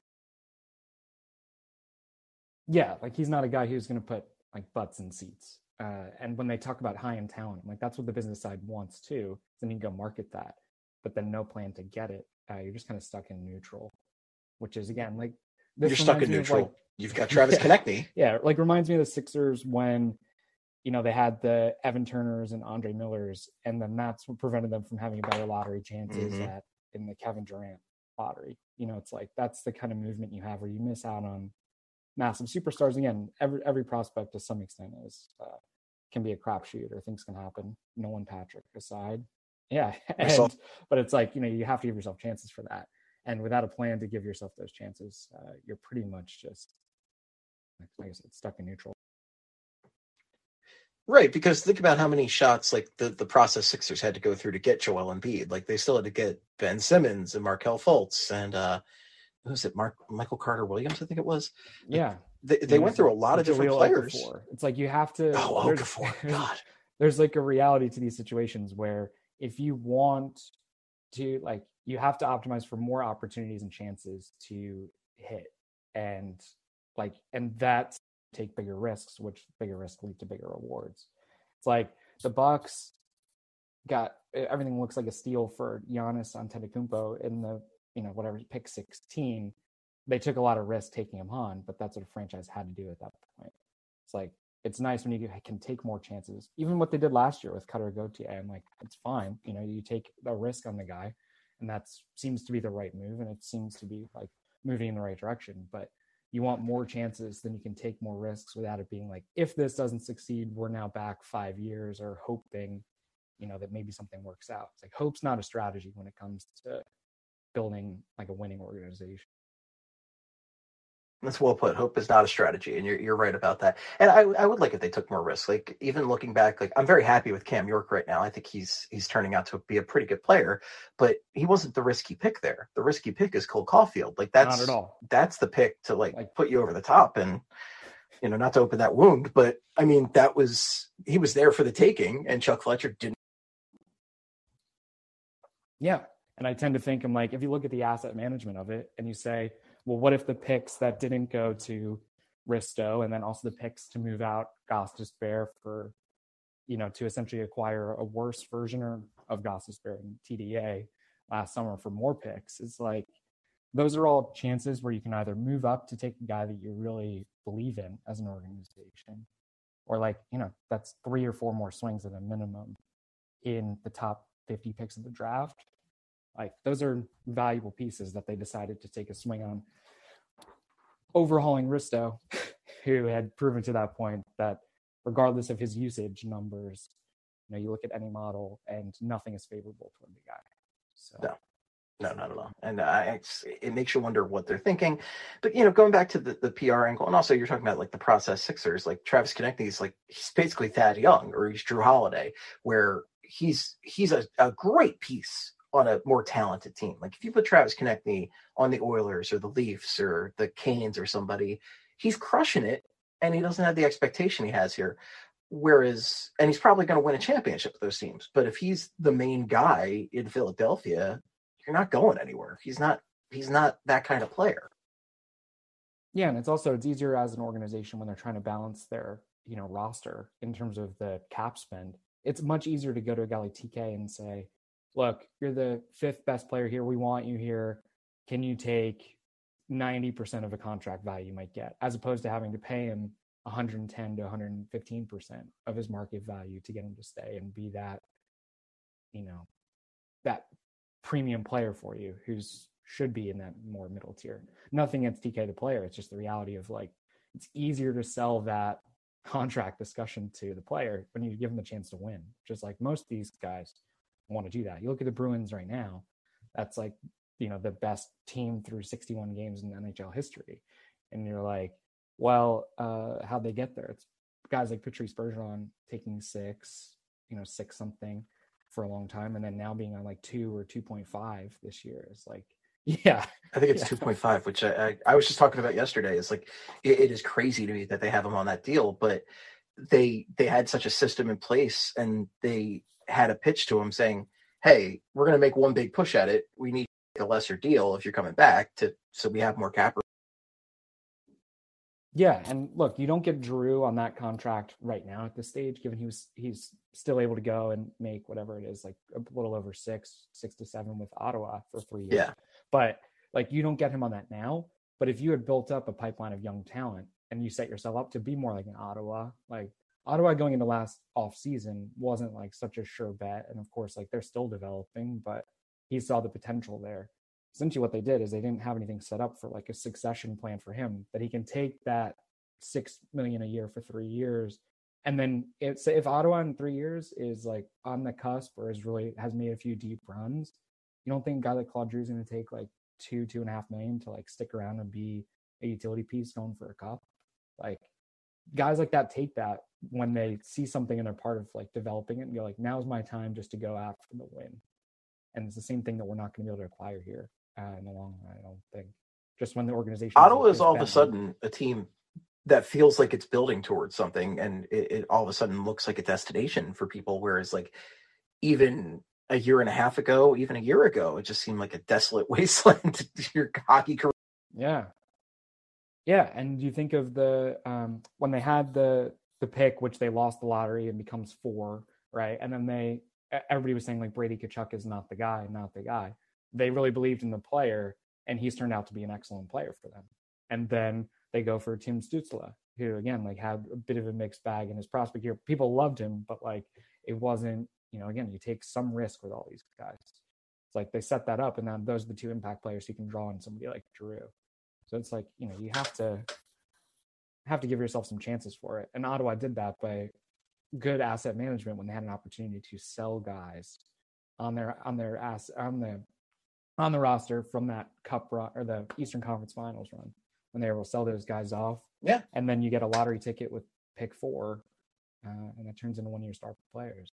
Yeah, like he's not a guy who's going to put like butts in seats. Uh, and when they talk about high-end talent, like that's what the business side wants too. Then you can go market that, but then no plan to get it. Uh, you're just kind of stuck in neutral, which is again like this you're stuck in neutral. Like, You've got Travis yeah, Konechny. Yeah, like reminds me of the Sixers when, you know, they had the Evan Turners and Andre Millers, and then that's what prevented them from having better lottery chances mm-hmm. at in the Kevin Durant lottery. You know, it's like that's the kind of movement you have where you miss out on massive superstars. Again, every every prospect to some extent is uh, can be a crapshoot, or things can happen. Nolan Patrick aside, yeah. And, but it's like, you know, you have to give yourself chances for that, and without a plan to give yourself those chances, uh, you're pretty much just, like I said, stuck in neutral. Right, because think about how many shots like the, the process Sixers had to go through to get Joel Embiid. Like they still had to get Ben Simmons and Markelle Fultz and uh, who was it? Mark Michael Carter Williams, I think it was. Yeah, they, they went through a lot of different players. Okafor. It's like you have to. Oh, Okafor, God. There's like a reality to these situations where if you want to, like, you have to optimize for more opportunities and chances to hit, and like, and that's take bigger risks, which bigger risks lead to bigger rewards. It's like the Bucks got everything looks like a steal for Giannis Antetokounmpo in the, you know, whatever pick sixteen. They took a lot of risk taking him on, but that's what a franchise had to do at that point. It's like, it's nice when you can take more chances. Even what they did last year with Cutter Gauthier, I'm like, it's fine. You know, you take a risk on the guy, and that seems to be the right move, and it seems to be like moving in the right direction. But you want more chances, then you can take more risks without it being like, if this doesn't succeed, we're now back five years or hoping, you know, that maybe something works out. It's like, hope's not a strategy when it comes to building like a winning organization. That's well put. Hope is not a strategy, and you're you're right about that. And I I would like if they took more risks. Like even looking back, like I'm very happy with Cam York right now. I think he's he's turning out to be a pretty good player, but he wasn't the risky pick there. The risky pick is Cole Caulfield. Like that's not at all. That's the pick to like, like put you over the top, and you know, not to open that wound, but I mean that was he was there for the taking, and Chuck Fletcher didn't. Yeah, and I tend to think I'm like, if you look at the asset management of it, and you say, well, what if the picks that didn't go to Risto, and then also the picks to move out Gostisbehere for, you know, to essentially acquire a worse version of Gostisbehere and T D A last summer for more picks? It's like, those are all chances where you can either move up to take a guy that you really believe in as an organization, or like, you know, that's three or four more swings at a minimum in the top fifty picks of the draft. Like, those are valuable pieces that they decided to take a swing on. Overhauling Risto, who had proven to that point that regardless of his usage numbers, you know, you look at any model and nothing is favorable toward the guy. So. No. No, not at all. And uh, it's, it makes you wonder what they're thinking. But, you know, going back to the, the P R angle, and also you're talking about like the process Sixers, like Travis Konechny is like, he's basically Thad Young or he's Drew Holiday, where he's he's a, a great piece on a more talented team. Like if you put Travis Konechny on the Oilers or the Leafs or the Canes or somebody, he's crushing it and he doesn't have the expectation he has here. Whereas, and he's probably going to win a championship with those teams. But if he's the main guy in Philadelphia, you're not going anywhere. He's not, he's not that kind of player. Yeah. And it's also, it's easier as an organization when they're trying to balance their, you know, roster in terms of the cap spend. It's much easier to go to a guy like T K and say, look, you're the fifth best player here. We want you here. Can you take ninety percent of a contract value you might get, as opposed to having to pay him one hundred ten to one hundred fifteen percent of his market value to get him to stay and be that, you know, that premium player for you who's should be in that more middle tier. Nothing against T K the player. It's just the reality of like, it's easier to sell that contract discussion to the player when you give them a chance to win. Just like most of these guys want to do that. You look at the Bruins right now, that's like, you know, the best team through sixty-one games in N H L history. And you're like, well, uh, how'd they get there? It's guys like Patrice Bergeron taking six, you know, six something for a long time, and then now being on like two or two point five this year is like, yeah. I think it's yeah. two point five, which I, I, I was just talking about yesterday. It's like, it, it is crazy to me that they have him on that deal, but they they had such a system in place and they had a pitch to him saying, hey, we're going to make one big push at it. We need a lesser deal if you're coming back to, so we have more cap. Yeah, and look, you don't get Drew on that contract right now at this stage, given he was he's still able to go and make whatever it is, like a little over six, six to seven with Ottawa for three years. Yeah. But like you don't get him on that now. But if you had built up a pipeline of young talent and you set yourself up to be more like an Ottawa, like Ottawa going into last off season wasn't like such a sure bet. And of course, like they're still developing, but he saw the potential there. Essentially what they did is they didn't have anything set up for like a succession plan for him, that he can take that six million a year for three years. And then if, if Ottawa in three years is like on the cusp or is really has made a few deep runs, you don't think a guy like Claude Giroux is going to take like two, two and a half million to like stick around and be a utility piece going for a cup? Like guys like that take that when they see something and they're part of like developing it and go like, now's my time just to go after the win. And it's the same thing that we're not going to be able to acquire here. Uh, in the long run, I don't think. Just when the organization Ottawa is all of a sudden a team that feels like it's building towards something, and it, it all of a sudden looks like a destination for people. Whereas, like even a year and a half ago, even a year ago, it just seemed like a desolate wasteland to your hockey career. Yeah, yeah. And you think of the um, when they had the the pick, which they lost the lottery and becomes four, right? And then they everybody was saying like Brady Tkachuk is not the guy, not the guy. They really believed in the player, and he's turned out to be an excellent player for them. And then they go for Tim Stützle, who again, like had a bit of a mixed bag in his prospect year. People loved him, but like it wasn't, you know, again, you take some risk with all these guys. It's like they set that up, and then those are the two impact players you can draw on somebody like Drew. So it's like, you know, you have to have to give yourself some chances for it. And Ottawa did that by good asset management when they had an opportunity to sell guys on their on their ass on the on the roster from that cup run or the Eastern Conference Finals run, when they were able to sell those guys off. Yeah. And then you get a lottery ticket with pick four, uh, and it turns into one of your star players.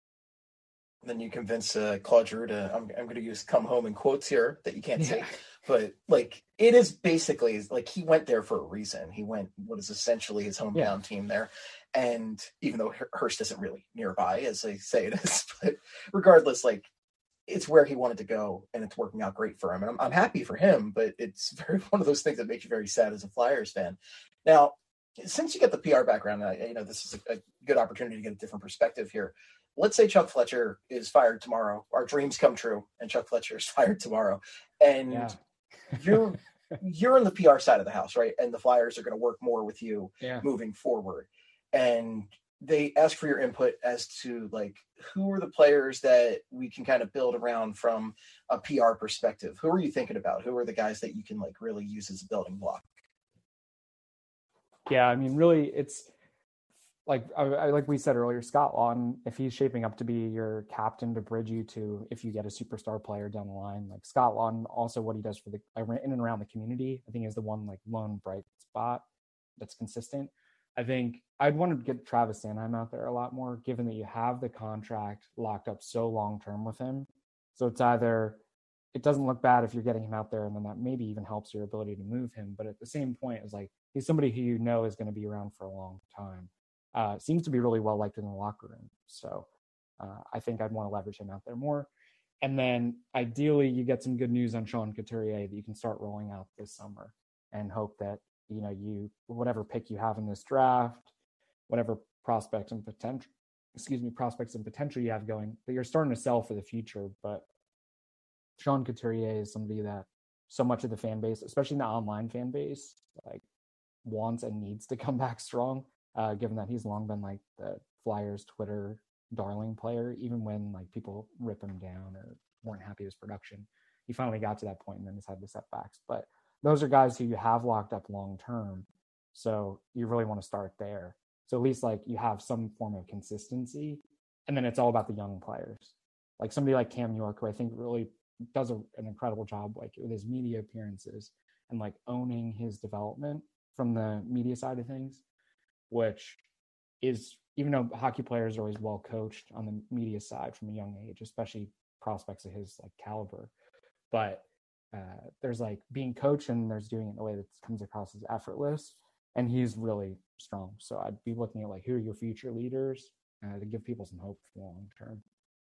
Then you convince uh, Claude Giroux to, I'm, I'm going to use come home in quotes here that you can't Yeah. say, but like it is basically like he went there for a reason. He went what is essentially his hometown Yeah. team there. And even though Hearst isn't really nearby, as they say it is, but regardless, like it's where he wanted to go, and it's working out great for him. And I'm, I'm happy for him, but it's very one of those things that makes you very sad as a Flyers fan. Now, since you get the P R background, I, you know, this is a, a good opportunity to get a different perspective here. Let's say Chuck Fletcher is fired tomorrow. Our dreams come true, and Chuck Fletcher is fired tomorrow. And Yeah. you're you're in the P R side of the house, right? And the Flyers are going to work more with you Yeah. moving forward. And they ask for your input as to like who are the players that we can kind of build around from a P R perspective. Who are you thinking about? Who are the guys that you can like really use as a building block? Yeah, I mean, really, it's like I, I, like we said earlier, Scott Lawton, if he's shaping up to be your captain to bridge you to if you get a superstar player down the line, like Scott Lawton, also what he does for the in and around the community, I think is the one like lone bright spot that's consistent. I think I'd want to get Travis Sanheim out there a lot more, given that you have the contract locked up so long term with him. So it's either it doesn't look bad if you're getting him out there, and then that maybe even helps your ability to move him. But at the same point, it's like he's somebody who you know is going to be around for a long time. Uh, seems to be really well liked in the locker room. So uh, I think I'd want to leverage him out there more. And then ideally you get some good news on Sean Couturier that you can start rolling out this summer, and hope that, you know, you, whatever pick you have in this draft, whatever prospects and potential, excuse me, prospects and potential you have going, that you're starting to sell for the future. But Sean Couturier is somebody that so much of the fan base, especially the online fan base, like wants and needs to come back strong. Uh, given that he's long been like the Flyers Twitter darling player, even when like people rip him down or weren't happy with his production, he finally got to that point and then has had the setbacks. But those are guys who you have locked up long term, so you really want to start there. So at least like you have some form of consistency, and then it's all about the young players, like somebody like Cam York, who I think really does a, an incredible job like with his media appearances and like owning his development from the media side of things, which is, even though hockey players are always well coached on the media side from a young age, especially prospects of his like caliber, but uh, there's like being coached and there's doing it in a way that comes across as effortless, and he's really strong. So I'd be looking at like, who are your future leaders uh, to give people some hope for the long term.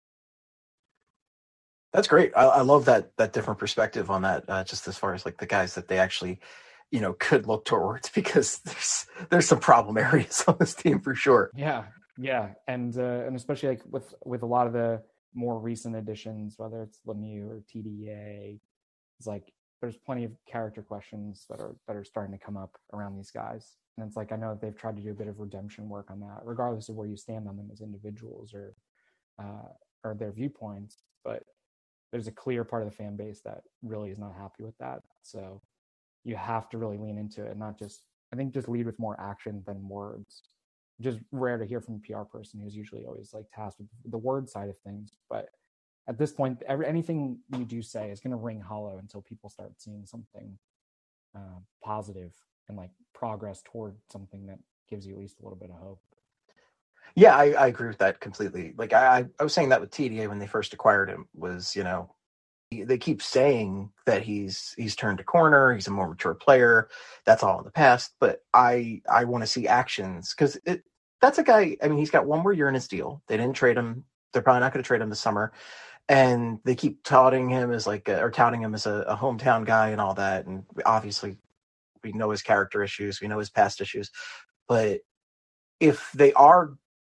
That's great. I, I love that that different perspective on that. Uh, just as far as like the guys that they actually, you know, could look towards, because there's there's some problem areas on this team for sure. Yeah, yeah, and uh, and especially like with with a lot of the more recent additions, whether it's Lemieux or T D A, it's like there's plenty of character questions that are that are starting to come up around these guys, and it's like I know that they've tried to do a bit of redemption work on that, regardless of where you stand on them as individuals or uh, or their viewpoints, but there's a clear part of the fan base that really is not happy with that. So you have to really lean into it and not just, I think, just lead with more action than words. Just rare to hear from a P R person who's usually always like tasked with the word side of things. But at this point, every, anything you do say is going to ring hollow until people start seeing something uh, positive and like progress toward something that gives you at least a little bit of hope. Yeah, I, I agree with that completely. Like I, I was saying that with T D A when they first acquired him was, you know, they keep saying that he's he's turned a corner, he's a more mature player. That's all in the past. But I I want to see actions, because it that's a guy. I mean, he's got one more year in his deal. They didn't trade him. They're probably not going to trade him this summer. And they keep touting him as like a, or touting him as a, a hometown guy and all that. And obviously, we know his character issues, we know his past issues. But if they are,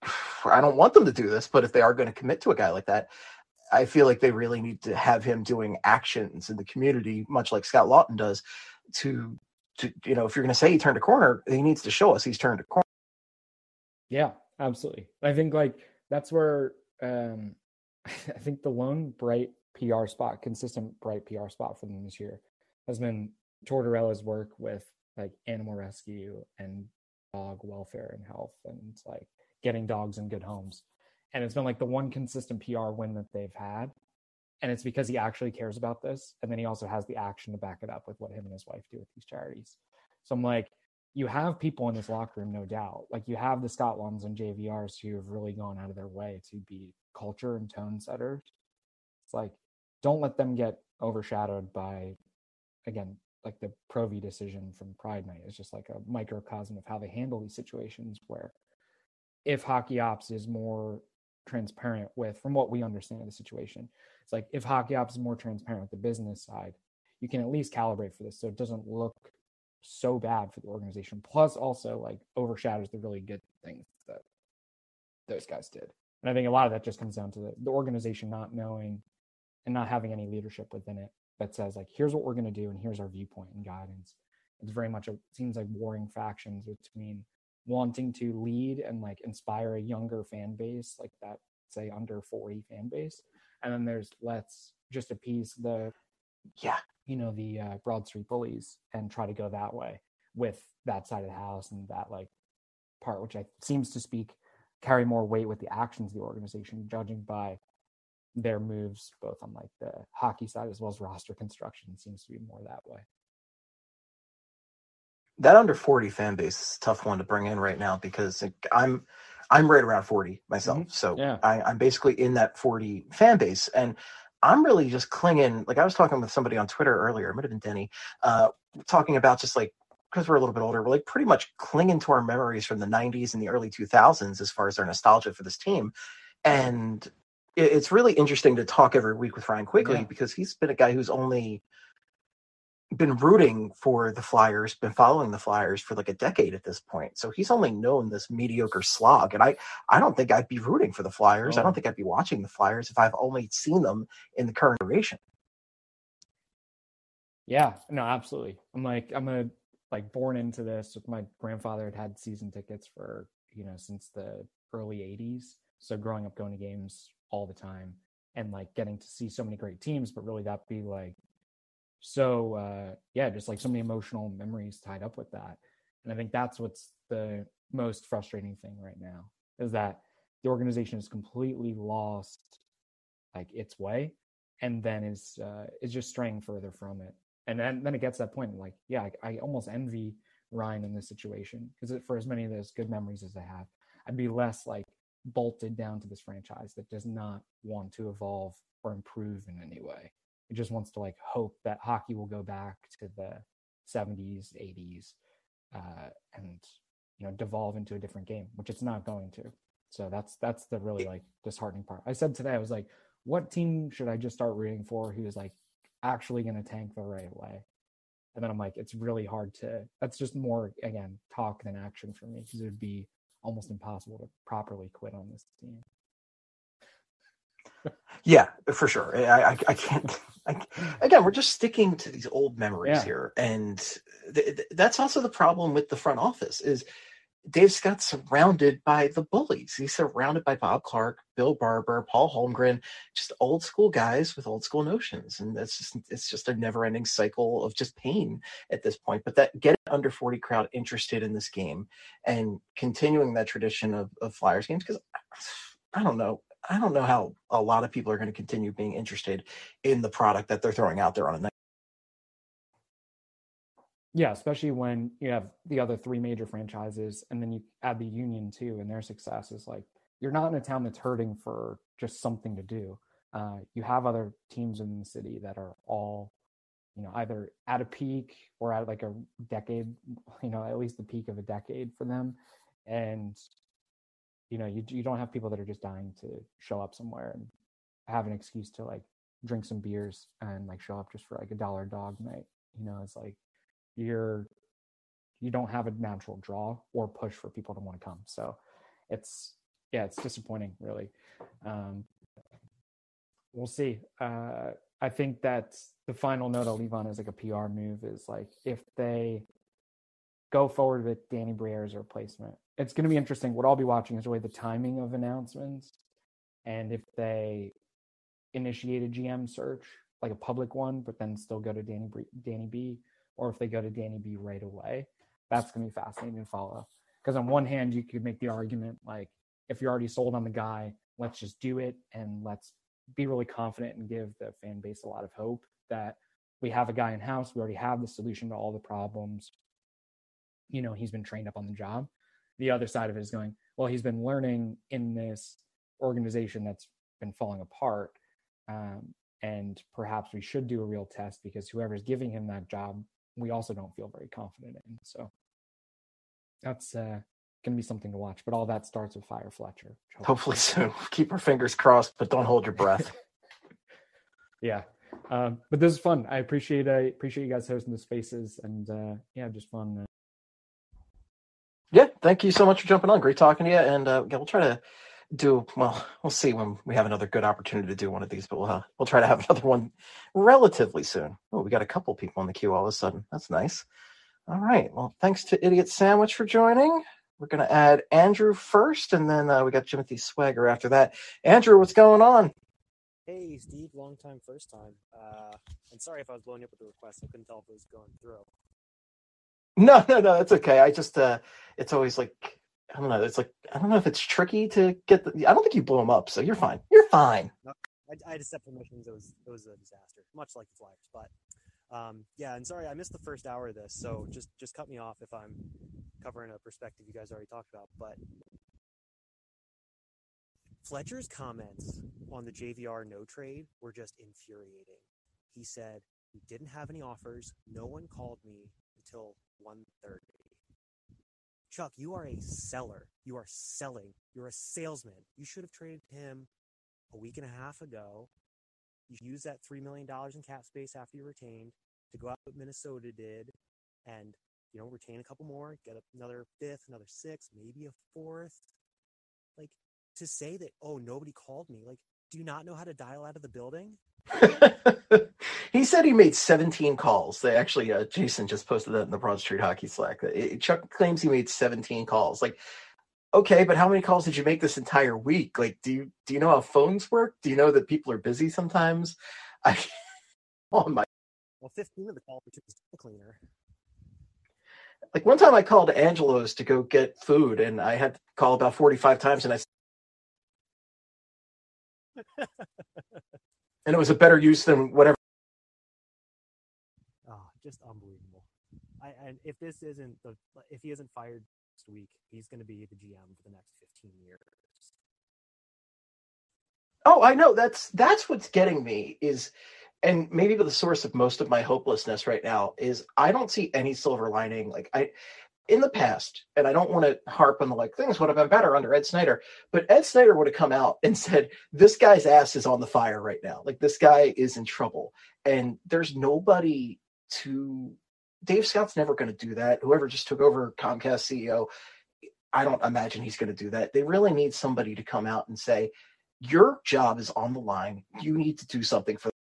I don't want them to do this, but if they are going to commit to a guy like that, I feel like they really need to have him doing actions in the community, much like Scott Lawton does, to, to you know, if you're going to say he turned a corner, he needs to show us he's turned a corner. Yeah, absolutely. I think like that's where um, I think the lone bright P R spot, consistent bright P R spot for them this year has been Tortorella's work with like animal rescue and dog welfare and health, and like getting dogs in good homes. And it's been like the one consistent P R win that they've had. And it's because he actually cares about this. And then he also has the action to back it up with what him and his wife do with these charities. So I'm like, you have people in this locker room, no doubt. Like you have the Scott Lawtons and J V Rs who have really gone out of their way to be culture and tone setters. It's like, don't let them get overshadowed by, again, like the Pro V decision from Pride Night is just like a microcosm of how they handle these situations, where if Hockey Ops is more transparent with, from what we understand of the situation, it's like if Hockey Ops is more transparent with the business side, you can at least calibrate for this so it doesn't look so bad for the organization, plus also like overshadows the really good things that those guys did. And I think a lot of that just comes down to the, the organization not knowing and not having any leadership within it that says like, here's what we're going to do and here's our viewpoint and guidance. It's very much, a, seems like warring factions between wanting to lead and like inspire a younger fan base, like that, say under forty fan base. And then there's let's just appease the, yeah, you know, the uh, Broad Street bullies and try to go that way with that side of the house and that like part, which I seems to speak carry more weight with the actions of the organization, judging by their moves, both on like the hockey side as well as roster construction, seems to be more that way. That under forty fan base is a tough one to bring in right now because I'm I'm right around forty myself. Mm-hmm. So yeah. I, I'm basically in that forty fan base. And I'm really just clinging. Like I was talking with somebody on Twitter earlier, it might have been Denny, uh, talking about just like, because we're a little bit older, we're like pretty much clinging to our memories from the nineties and the early two thousands as far as our nostalgia for this team. And it, it's really interesting to talk every week with Ryan Quigley yeah. because he's been a guy who's only been rooting for the Flyers, been following the Flyers for like a decade at this point. So he's only known this mediocre slog. And I, I don't think I'd be rooting for the Flyers. Oh. I don't think I'd be watching the Flyers if I've only seen them in the current iteration. Yeah, no, absolutely. I'm like, I'm a, like born into this with my grandfather had had season tickets for, you know, since the early eighties. So growing up going to games all the time and like getting to see so many great teams, but really that be like, So, uh, yeah, just like so many emotional memories tied up with that. And I think that's what's the most frustrating thing right now is that the organization has completely lost like its way and then is, uh, is just straying further from it. And then, then it gets to that point like, yeah, I, I almost envy Ryan in this situation because for as many of those good memories as I have, I'd be less like bolted down to this franchise that does not want to evolve or improve in any way. It just wants to like hope that hockey will go back to the seventies, eighties, uh, and you know devolve into a different game, which it's not going to. So that's that's the really like disheartening part. I said today, I was like, what team should I just start rooting for who is like actually going to tank the right way? And then I'm like, it's really hard to. That's just more again talk than action for me because it would be almost impossible to properly quit on this team. Yeah, for sure. I, I, I can't. I, again, we're just sticking to these old memories yeah. here, and th- th- that's also the problem with the front office. Is Dave Scott's surrounded by the bullies. He's surrounded by Bob Clark, Bill Barber, Paul Holmgren, just old school guys with old school notions, and that's just it's just a never-ending cycle of just pain at this point. But that getting under forty crowd interested in this game and continuing that tradition of, of Flyers games, because I don't know. I don't know how a lot of people are going to continue being interested in the product that they're throwing out there on a night. Yeah, especially when you have the other three major franchises and then you add the Union too and their success is like, you're not in a town that's hurting for just something to do. Uh, you have other teams in the city that are all, you know, either at a peak or at like a decade, you know, at least the peak of a decade for them. And you know, you you don't have people that are just dying to show up somewhere and have an excuse to like drink some beers and like show up just for like a dollar dog night. You know, it's like you're you don't have a natural draw or push for people to want to come. So it's yeah, it's disappointing really. Um, we'll see. Uh, I think that the final note I'll leave on as like a P R move is like if they go forward with Danny Briere's replacement. It's going to be interesting. What I'll be watching is really the timing of announcements and if they initiate a G M search, like a public one, but then still go to Danny Danny B, or if they go to Danny B right away. That's going to be fascinating to follow. Because on one hand, you could make the argument like, if you're already sold on the guy, let's just do it and let's be really confident and give the fan base a lot of hope that we have a guy in house. We already have the solution to all the problems. You know, he's been trained up on the job. The other side of it is going, well, he's been learning in this organization that's been falling apart. Um, and perhaps we should do a real test because whoever's giving him that job, we also don't feel very confident in. So that's uh, going to be something to watch. But all that starts with Fire Fletcher. Hopefully soon. Keep our fingers crossed, but don't hold your breath. Yeah. Um, but this is fun. I appreciate I appreciate you guys hosting the spaces and uh, yeah, just fun. Uh, Yeah, thank you so much for jumping on. Great talking to you. And uh, yeah, we'll try to do, well, we'll see when we have another good opportunity to do one of these, but we'll, uh, we'll try to have another one relatively soon. Oh, we got a couple people in the queue all of a sudden. That's nice. All right. Well, thanks to Idiot Sandwich for joining. We're going to add Andrew first, and then uh, we got Timothy Swagger after that. Andrew, what's going on? Hey, Steve. Long time, first time. Uh, and sorry if I was blowing up with the request. I couldn't tell if it was going through. No, no, no, that's okay. I just, uh, it's always like I don't know. It's like I don't know if it's tricky to get the. I don't think you blew them up, so you're fine. You're fine. No, I, I had to set permissions. It was it was a disaster, much like the Flyers. But um, yeah, and sorry I missed the first hour of this, so just just cut me off if I'm covering a perspective you guys already talked about. But Fletcher's comments on the J V R no trade were just infuriating. He said he didn't have any offers. No one called me until one thirty. Chuck, you are a seller. You are selling. You're a salesman. You should have traded him a week and a half ago. You use that three million dollars in cap space after you retained to go out what Minnesota did and, you know, retain a couple more, get another fifth, another sixth, maybe a fourth. Like, to say that, oh, nobody called me. Like, do you not know how to dial out of the building? He said he made seventeen calls. They actually, uh, Jason just posted that in the Broad Street Hockey Slack. It, Chuck claims he made seventeen calls. Like, okay, but how many calls did you make this entire week? Like, do you do you know how phones work? Do you know that people are busy sometimes? I, oh my. Well, fifteen of the calls were to the cleaner. Like one time I called Angelo's to go get food, and I had to call about forty-five times, and I. And it was a better use than whatever. Oh, just unbelievable. I and if this isn't the if he isn't fired next week, he's going to be the G M for the next fifteen years. Oh, I know. That's that's what's getting me is, and maybe the source of most of my hopelessness right now is I don't see any silver lining. Like I, in the past, and I don't want to harp on the like things would have been better under Ed Snyder, but Ed Snyder would have come out and said, this guy's ass is on the fire right now. Like this guy is in trouble. And there's nobody to, Dave Scott's never going to do that. Whoever just took over Comcast C E O, I don't imagine he's going to do that. They really need somebody to come out and say, your job is on the line. You need to do something for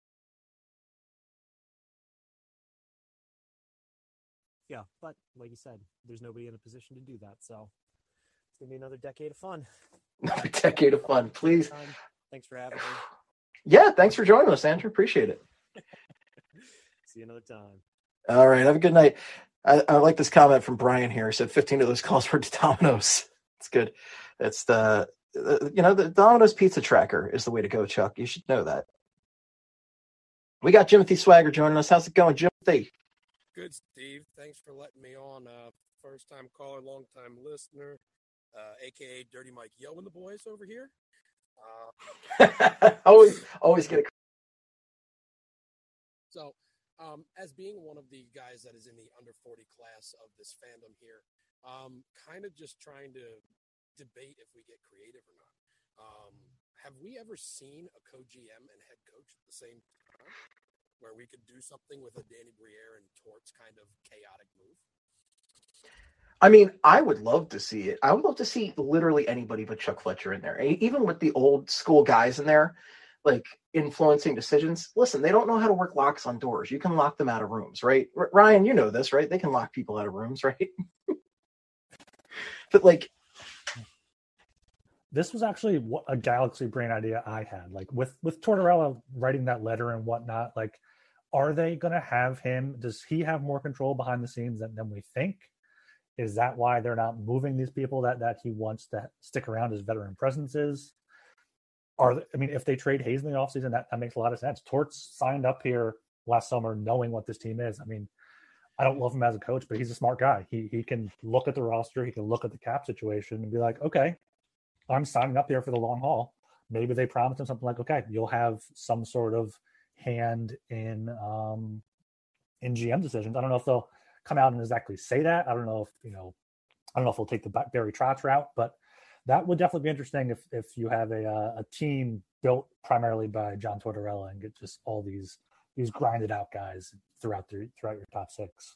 Yeah, but like you said, there's nobody in a position to do that. So it's gonna be another decade of fun. Another decade of fun, please. Thanks for having me. Yeah, thanks for joining us, Andrew. Appreciate it. See you another time. All right, have a good night. I, I like this comment from Brian here. He said fifteen of those calls were to Domino's. It's good. It's the, the you know the Domino's pizza tracker is the way to go, Chuck. You should know that. We got Jimothy Swagger joining us. How's it going, Jimothy? Good, Steve. Thanks for letting me on. Uh, first-time caller, long-time listener, uh, a k a. Dirty Mike Yo and the boys over here. Uh, always, always get a. So, um, as being one of the guys that is in the under forty class of this fandom here, um, kind of just trying to debate if we get creative or not. Um, have we ever seen a co-G M and head coach at the same time, where we could do something with a Danny Briere and Torts kind of chaotic move? I mean, I would love to see it. I would love to see literally anybody but Chuck Fletcher in there. Even with the old school guys in there, like influencing decisions. Listen, they don't know how to work locks on doors. You can lock them out of rooms, right? R- Ryan, you know this, right? They can lock people out of rooms, right? But like, this was actually a galaxy brain idea I had. Like with with Tortorella writing that letter and whatnot, like, are they going to have him? Does he have more control behind the scenes than, than we think? Is that why they're not moving these people that that he wants to stick around as veteran presences? Are I mean, if they trade Hayes in the offseason, that, that makes a lot of sense. Torts signed up here last summer knowing what this team is. I mean, I don't love him as a coach, but he's a smart guy. He he can look at the roster, he can look at the cap situation and be like, okay, I'm signing up here for the long haul. Maybe they promised him something like, okay, you'll have some sort of hand in um, in G M decisions. I don't know if they'll come out and exactly say that. I don't know if, you know, I don't know if we'll take the Barry Trotz route, but that would definitely be interesting if if you have a a team built primarily by John Tortorella and get just all these these grinded out guys throughout the throughout your top six.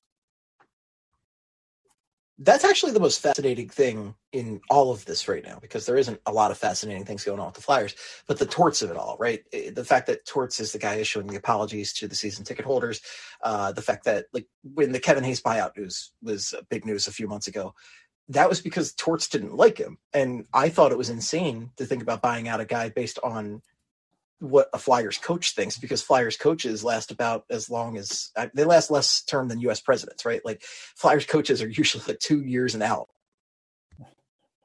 That's actually the most fascinating thing in all of this right now, because there isn't a lot of fascinating things going on with the Flyers, but the Torts of it all, right? The fact that Torts is the guy issuing the apologies to the season ticket holders, uh, the fact that like when the Kevin Hayes buyout news was big news a few months ago, that was because Torts didn't like him. And I thought it was insane to think about buying out a guy based on what a Flyers coach thinks, because Flyers coaches last about as long as they last less term tthan U S presidents, right? Like Flyers coaches are usually like two years and out.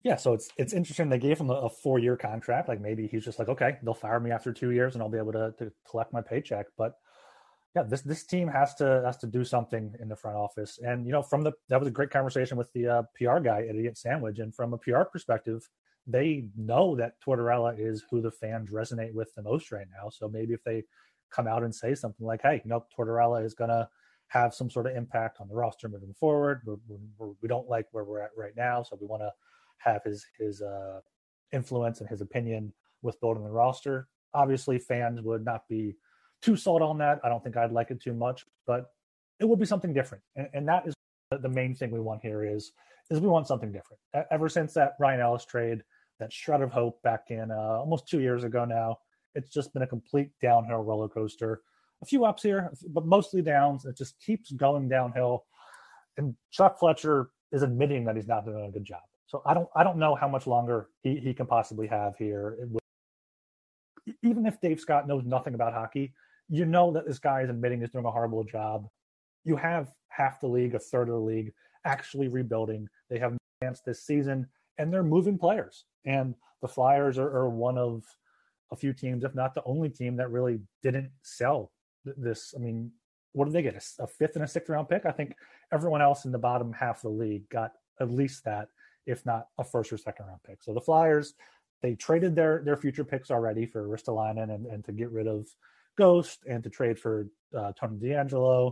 Yeah, so it's it's interesting. They gave him a, a four year contract. Like maybe he's just like, okay, they'll fire me after two years, and I'll be able to, to collect my paycheck. But yeah, this this team has to has to do something in the front office. And you know, from the that was a great conversation with the uh, P R guy at Idiot Sandwich. And from a P R perspective, they know that Tortorella is who the fans resonate with the most right now. So maybe if they come out and say something like, hey, you know, Tortorella is gonna have some sort of impact on the roster moving forward. We're, we're, we don't like where we're at right now, so we want to have his his uh, influence and his opinion with building the roster. Obviously, fans would not be too sold on that. I don't think I'd like it too much, but it will be something different. And, and that is the main thing we want here is, is we want something different. Ever since that Ryan Ellis trade, that shred of hope back in uh, almost two years ago now, it's just been a complete downhill roller coaster. A few ups here, but mostly downs. It just keeps going downhill. And Chuck Fletcher is admitting that he's not doing a good job. So I don't I don't know how much longer he, he can possibly have here. Even if Dave Scott knows nothing about hockey, you know that this guy is admitting he's doing a horrible job. You have half the league, a third of the league, actually rebuilding. They have no chance this season, and they're moving players. And the Flyers are, are one of a few teams, if not the only team, that really didn't sell this. I mean, what did they get? A, a fifth and a sixth round pick? I think everyone else in the bottom half of the league got at least that, if not a first or second round pick. So the Flyers, they traded their their future picks already for Ristolainen and, and to get rid of Ghost and to trade for uh, Tony DeAngelo.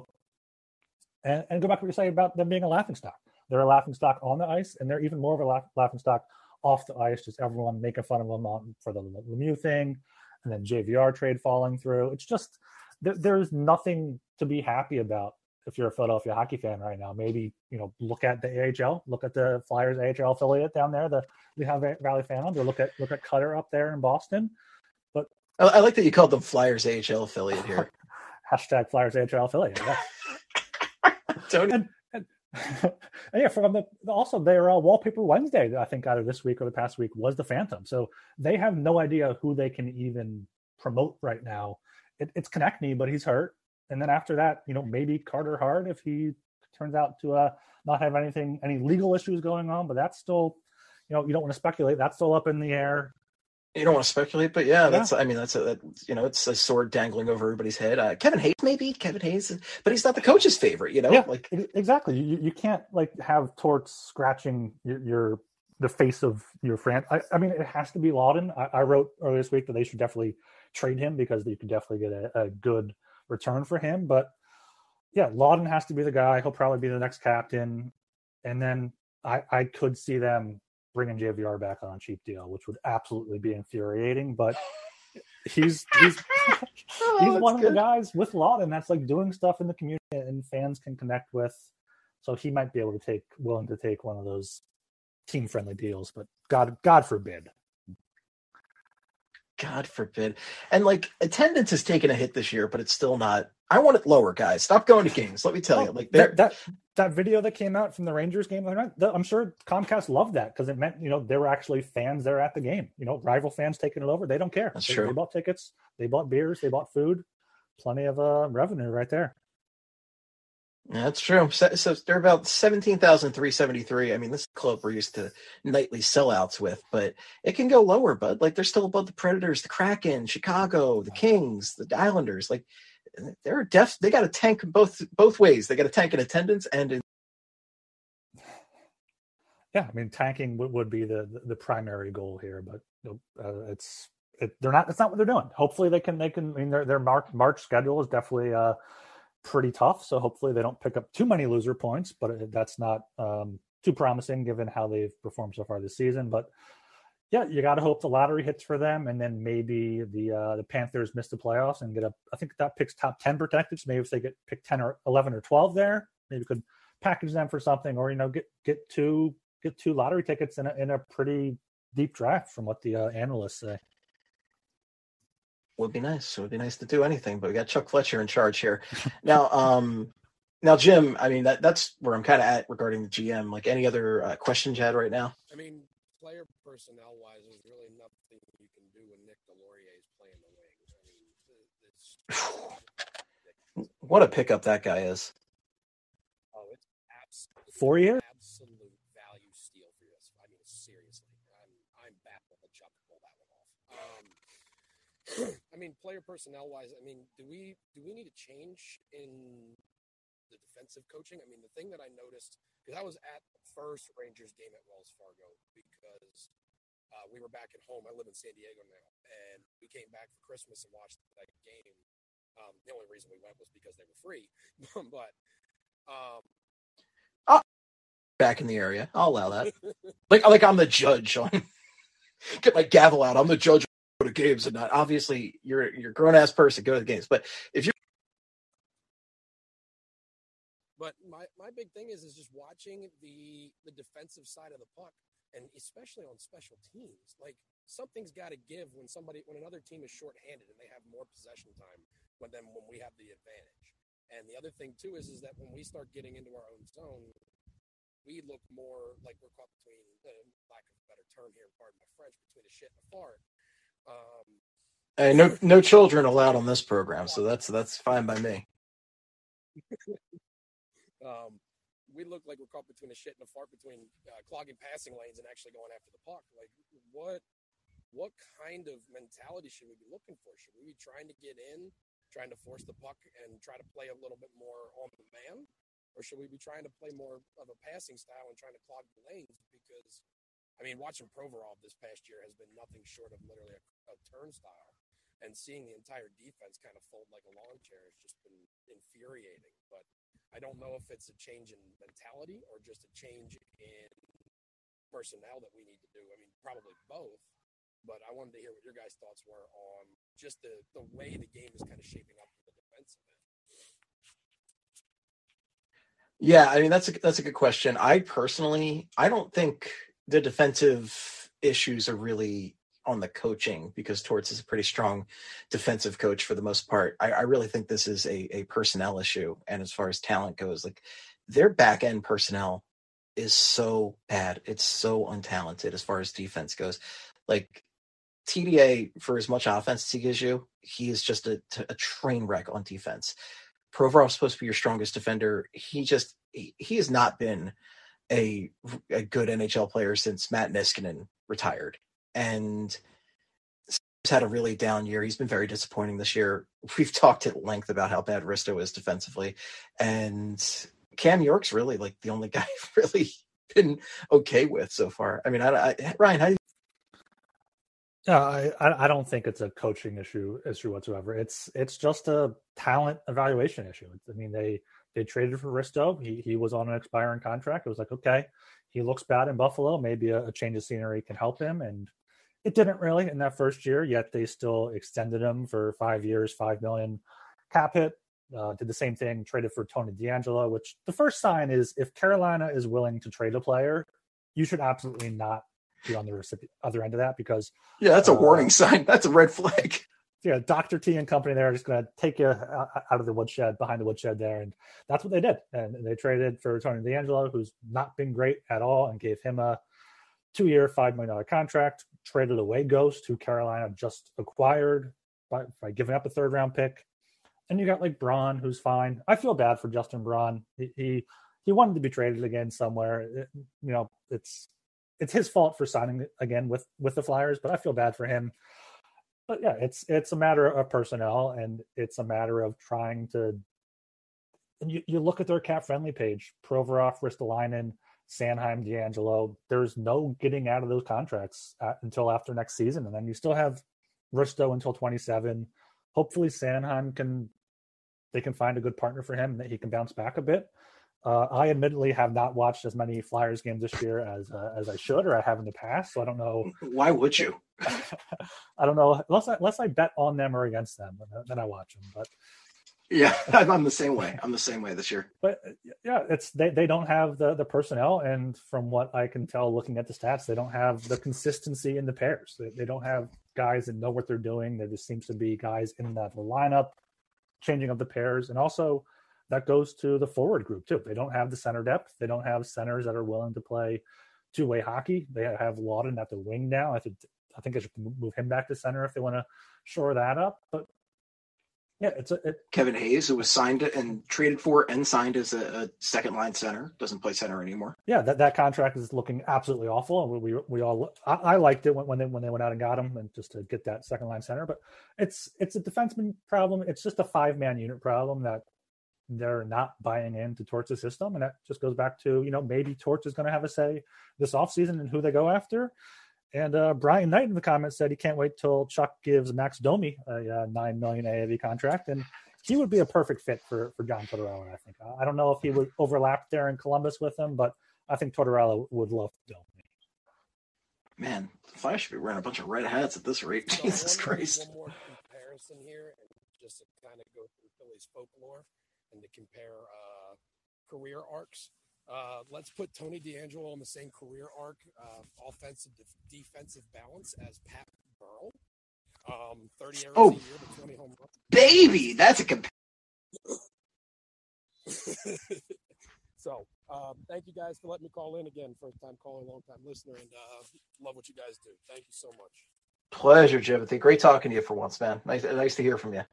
And, and go back to what you say about them being a laughingstock. They're a laughingstock on the ice, and they're even more of a laugh, laughingstock off the ice, just everyone making fun of them on, for the Lemieux thing, and then J V R trade falling through. It's just, there, there's nothing to be happy about if you're a Philadelphia hockey fan right now. Maybe, you know, look at the A H L, look at the Flyers A H L affiliate down there, the Lehigh Valley Phantoms, or look at look at Cutter up there in Boston. But I, I like that you called them Flyers A H L affiliate here. Hashtag Flyers A H L affiliate. Yeah. Tony. And, and, and yeah, from the also their uh, Wallpaper Wednesday, I think out of this week or the past week, was the Phantom. So they have no idea who they can even promote right now. It, it's Konechny, but he's hurt. And then after that, you know, maybe Carter Hart if he turns out to uh, not have anything, any legal issues going on. But that's still, you know, you don't want to speculate. That's still up in the air. You don't want to speculate, but yeah, that's, yeah. I mean, that's a, that, you know, it's a sword dangling over everybody's head. Uh, Kevin Hayes, maybe Kevin Hayes, but he's not the coach's favorite, you know? Yeah, like exactly. You, you can't like have Torts scratching your, your the face of your friend. I, I mean, it has to be Lawton. I, I wrote earlier this week that they should definitely trade him because you could definitely get a, a good return for him. But yeah, Lawton has to be the guy. He'll probably be the next captain. And then I, I could see them bringing J V R back on a cheap deal, which would absolutely be infuriating. But he's he's oh, he's one good. of the guys with Lawton that's like doing stuff in the community and fans can connect with. So he might be able to take willing to take one of those team friendly deals. But God God forbid. God forbid. And like attendance has taken a hit this year, but it's still not. I want it lower, guys. Stop going to games. Let me tell you. Like that, that that video that came out from the Rangers game, I'm sure Comcast loved that because it meant, you know, there were actually fans there at the game. You know, rival fans taking it over. They don't care. That's they, true. They bought tickets. They bought beers. They bought food. Plenty of uh, revenue right there. Yeah, that's true. So, so they're about seventeen thousand three hundred seventy-three. I mean, this club we're used to nightly sellouts with, but it can go lower, bud. Like they're still above the Predators, the Kraken, Chicago, the Kings, the Islanders. Like they're def. They got a tank both both ways. They got a tank in attendance and in. Yeah, I mean, tanking would, would be the, the the primary goal here, but uh, it's it, they're not. It's not what they're doing. Hopefully, they can. They can. I mean, their their March March schedule is definitely uh. pretty tough, so hopefully they don't pick up too many loser points, but that's not um, too promising given how they've performed so far this season. But yeah, you got to hope the lottery hits for them, and then maybe the uh, the Panthers miss the playoffs and get a. I think that picks top ten protected. So maybe if they get pick ten or eleven or twelve there, maybe could package them for something, or you know get get two get two lottery tickets in a in a pretty deep draft from what the uh, analysts say. Would be nice. It would be nice to do anything, but we got Chuck Fletcher in charge here. Now, um, now, Jim, I mean, that, that's where I'm kind of at regarding the G M. Like any other uh, questions you had right now? I mean, player personnel wise, there's really nothing you can do when Nick Delorier is playing the wings. I mean, it's what a pickup that guy is. Oh, it's absolute, Four years? absolute value steal for this. I mean, seriously, I'm I'm baffled that Chuck pulled that one off. Um, I mean, player personnel wise, I mean, do we do we need a change in the defensive coaching? I mean, the thing that I noticed, because I was at the first Rangers game at Wells Fargo because uh, we were back at home. I live in San Diego now, and we came back for Christmas and watched that game. Um, the only reason we went was because they were free, but um, oh, back in the area, I'll allow that. like like I'm the judge on. Get my gavel out. I'm the judge. Go to games and not. Obviously, you're you're a grown ass person. Go to the games, but if you're But my, my big thing is is just watching the the defensive side of the puck, and especially on special teams. Like something's got to give when somebody when another team is shorthanded and they have more possession time when them when we have the advantage. And the other thing too is is that when we start getting into our own zone, we look more like we're caught between, uh, lack of a better term here, pardon my French, between a shit and a fart. Um, hey, no no children allowed on this program, so that's that's fine by me. Um, we look like we're caught between a shit and a fart, between uh, clogging passing lanes and actually going after the puck. Like, what what kind of mentality should we be looking for? Should we be trying to get in, trying to force the puck and try to play a little bit more on the man? Or should we be trying to play more of a passing style and trying to clog the lanes? Because, I mean, watching Provorov this past year has been nothing short of literally a, a turnstile. And seeing the entire defense kind of fold like a lawn chair has just been infuriating. But I don't know if it's a change in mentality or just a change in personnel that we need to do. I mean, probably both. But I wanted to hear what your guys' thoughts were on just the, the way the game is kind of shaping up for the defensive end. Yeah, I mean that's a that's a good question. I personally, I don't think the defensive issues are really on the coaching, because Torts is a pretty strong defensive coach for the most part. I, I really think this is a, a personnel issue. And as far as talent goes, like their back end personnel is so bad. It's so untalented as far as defense goes. Like T D A, for as much offense as he gives you, he is just a, a train wreck on defense. Provorov's supposed to be your strongest defender. He just, he, he has not been a, a good N H L player since Matt Niskanen retired. And he's had a really down year. He's been very disappointing this year. We've talked at length about how bad Risto is defensively. And Cam York's really like the only guy I've really been okay with so far. I mean, I, I, Ryan, how do you? Yeah, I, I don't think it's a coaching issue issue whatsoever. It's it's just a talent evaluation issue. I mean, they they traded for Risto. He he was on an expiring contract. It was like, okay, he looks bad in Buffalo. Maybe a, a change of scenery can help him. And it didn't really in that first year, yet they still extended him for five years, five million cap hit. Uh, did the same thing, traded for Tony DeAngelo, which the first sign is if Carolina is willing to trade a player, you should absolutely not be on the recipient, other end of that, because yeah, that's a uh, warning sign. That's a red flag. Yeah, Doctor T and company there are just going to take you out of the woodshed, behind the woodshed there, and that's what they did. And they traded for Tony DeAngelo, who's not been great at all, and gave him a two-year, five million dollars contract. Traded away Ghost, who Carolina just acquired by, by giving up a third-round pick. And you got like Braun, who's fine. I feel bad for Justin Braun. He he, he wanted to be traded again somewhere. It, you know, it's it's his fault for signing again with with the Flyers, but I feel bad for him. But yeah, it's it's a matter of personnel, and it's a matter of trying to. And you, you look at their cap friendly page: Provorov, Ristolainen, Sanheim, DeAngelo. There's no getting out of those contracts at, until after next season, and then you still have Risto until twenty-seven. Hopefully, Sanheim can they can find a good partner for him and that he can bounce back a bit. Uh, I admittedly have not watched as many Flyers games this year as uh, as I should, or I have in the past. So I don't know. Why would you? I don't know. Unless I, unless I bet on them or against them, then I watch them. But yeah, I'm the same way. I'm the same way this year. But yeah, it's they, they don't have the, the personnel, and from what I can tell, looking at the stats, they don't have the consistency in the pairs. They, they don't have guys that know what they're doing. There just seems to be guys in that lineup changing of the pairs, and also that goes to the forward group too. They don't have the center depth. They don't have centers that are willing to play two-way hockey. They have Lawton at the wing now. I think I think they should move him back to center if they want to shore that up. But Yeah, it's a, it, Kevin Hayes, who was signed and traded for and signed as a, a second line center, doesn't play center anymore. Yeah, that, that contract is looking absolutely awful, and we we, we all I, I liked it when, when they when they went out and got him, and just to get that second line center. But it's it's a defenseman problem. It's just a five man unit problem that they're not buying into Torts' system, and that just goes back to, you know, maybe Torts is going to have a say this offseason in who they go after. And uh, Brian Knight in the comments said he can't wait till Chuck gives Max Domi a uh, nine million A A V contract, and he would be a perfect fit for for John Tortorella. I think. I don't know if he would overlap there in Columbus with him, but I think Tortorella would love Domi. Man, the Flyers should be wearing a bunch of red hats at this rate. So Jesus one, Christ! One more comparison here, and just to kind of go through Philly's folklore and to compare uh, career arcs. Uh, let's put Tony DeAngelo on the same career arc, uh, offensive de- defensive balance as Pat Burrell. Um, thirty errors Oh, a year to twenty home runs. baby, that's a comp- So, um, thank you guys for letting me call in again. First time caller, long time listener, and uh, love what you guys do. Thank you so much. Pleasure, Jimothy. Great talking to you for once, man. Nice, nice to hear from you.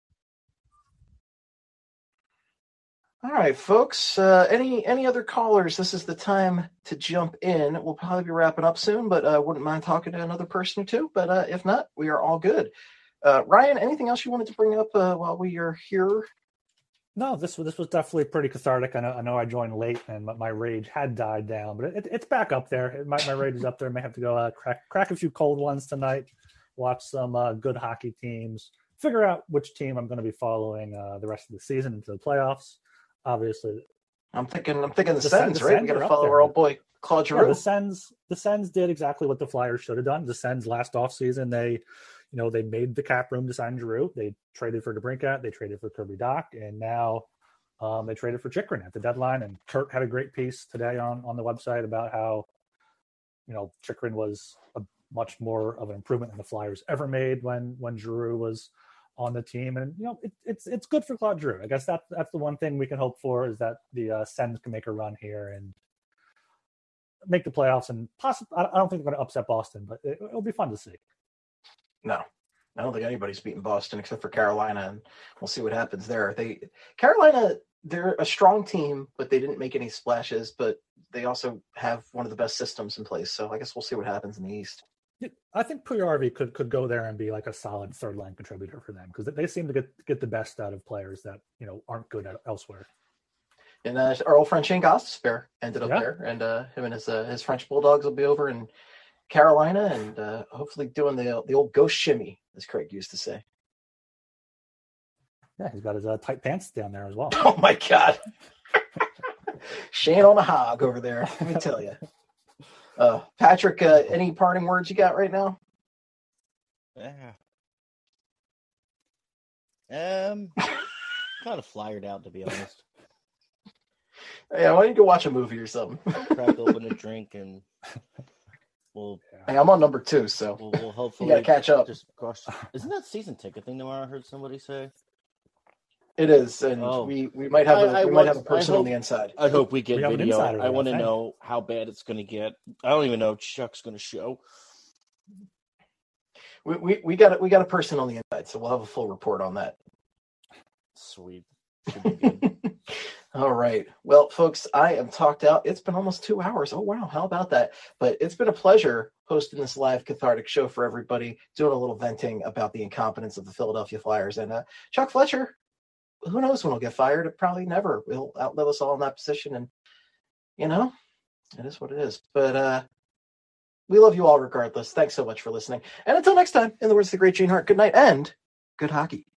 All right, folks. Uh, any any other callers? This is the time to jump in. We'll probably be wrapping up soon, but I uh, wouldn't mind talking to another person or two. But uh, if not, we are all good. Uh, Ryan, anything else you wanted to bring up uh, while we are here? No, this was this was definitely pretty cathartic. I know I know I joined late and my, my rage had died down, but it, it's back up there. It, my my rage is up there. I may have to go uh, crack crack a few cold ones tonight. Watch some uh, good hockey teams. Figure out which team I'm going to be following uh, the rest of the season into the playoffs. Obviously, I'm thinking. I'm thinking the, the Sens, the right? Sens We got are to up follow there. our old boy Claude Giroux. Yeah, the Sens, the Sens did exactly what the Flyers should have done. The Sens last offseason, they, you know, they made the cap room to sign Giroux. They traded for DeBrincat, they traded for Kirby Dach, and now um, they traded for Chychrun at the deadline. And Kurt had a great piece today on on the website about how, you know, Chychrun was a much more of an improvement than the Flyers ever made when when Giroux was on the team. And, you know, it, it's it's good for Claude Giroux. I guess that's that's the one thing we can hope for, is that the uh, Sens can make a run here and make the playoffs, and possibly, I don't think they're going to upset Boston, but it, it'll be fun to see. No, I don't think anybody's beaten Boston except for Carolina, and we'll see what happens there. They Carolina, they're a strong team, but they didn't make any splashes, but they also have one of the best systems in place. So I guess we'll see what happens in the East. I think Puyarvi could could go there and be like a solid third line contributor for them, because they seem to get get the best out of players that, you know, aren't good at elsewhere. And uh, our old friend Shane Gostisbehere ended up Yeah. there, and uh, him and his uh, his French Bulldogs will be over in Carolina, and uh, hopefully doing the the old ghost shimmy, as Craig used to say. Yeah, he's got his uh, tight pants down there as well. Oh my God, Shane on a hog over there. Let me tell you, uh, Patrick. Uh, any parting words you got right now? Yeah. Um, kind of flyered out, to be honest. Yeah, why don't you go watch a movie or something? Crack open a drink and we'll. Hey, I'm on number two, so we'll, we'll hopefully you gotta catch up. Just cross. Isn't that season ticket thing? I heard somebody say. It is, and Oh. we, we might have a I- I we might have a want- person I on hope- the inside. I hope we get We have an video. insider I there, want to thank you. know how bad it's going to get. I don't even know if Chuck's going to show. We, we we got we got a person on the inside, so we'll have a full report on that. Sweet. All right. Well, folks, I am talked out. It's been almost two hours. Oh, wow. How about that? But it's been a pleasure hosting this live cathartic show for everybody, doing a little venting about the incompetence of the Philadelphia Flyers. And uh, Chuck Fletcher, who knows when he'll get fired? Probably never. He'll outlive us all in that position. And, you know, it is what it is. But uh, we love you all regardless. Thanks so much for listening. And until next time, in the words of the great Gene Hart, good night and good hockey.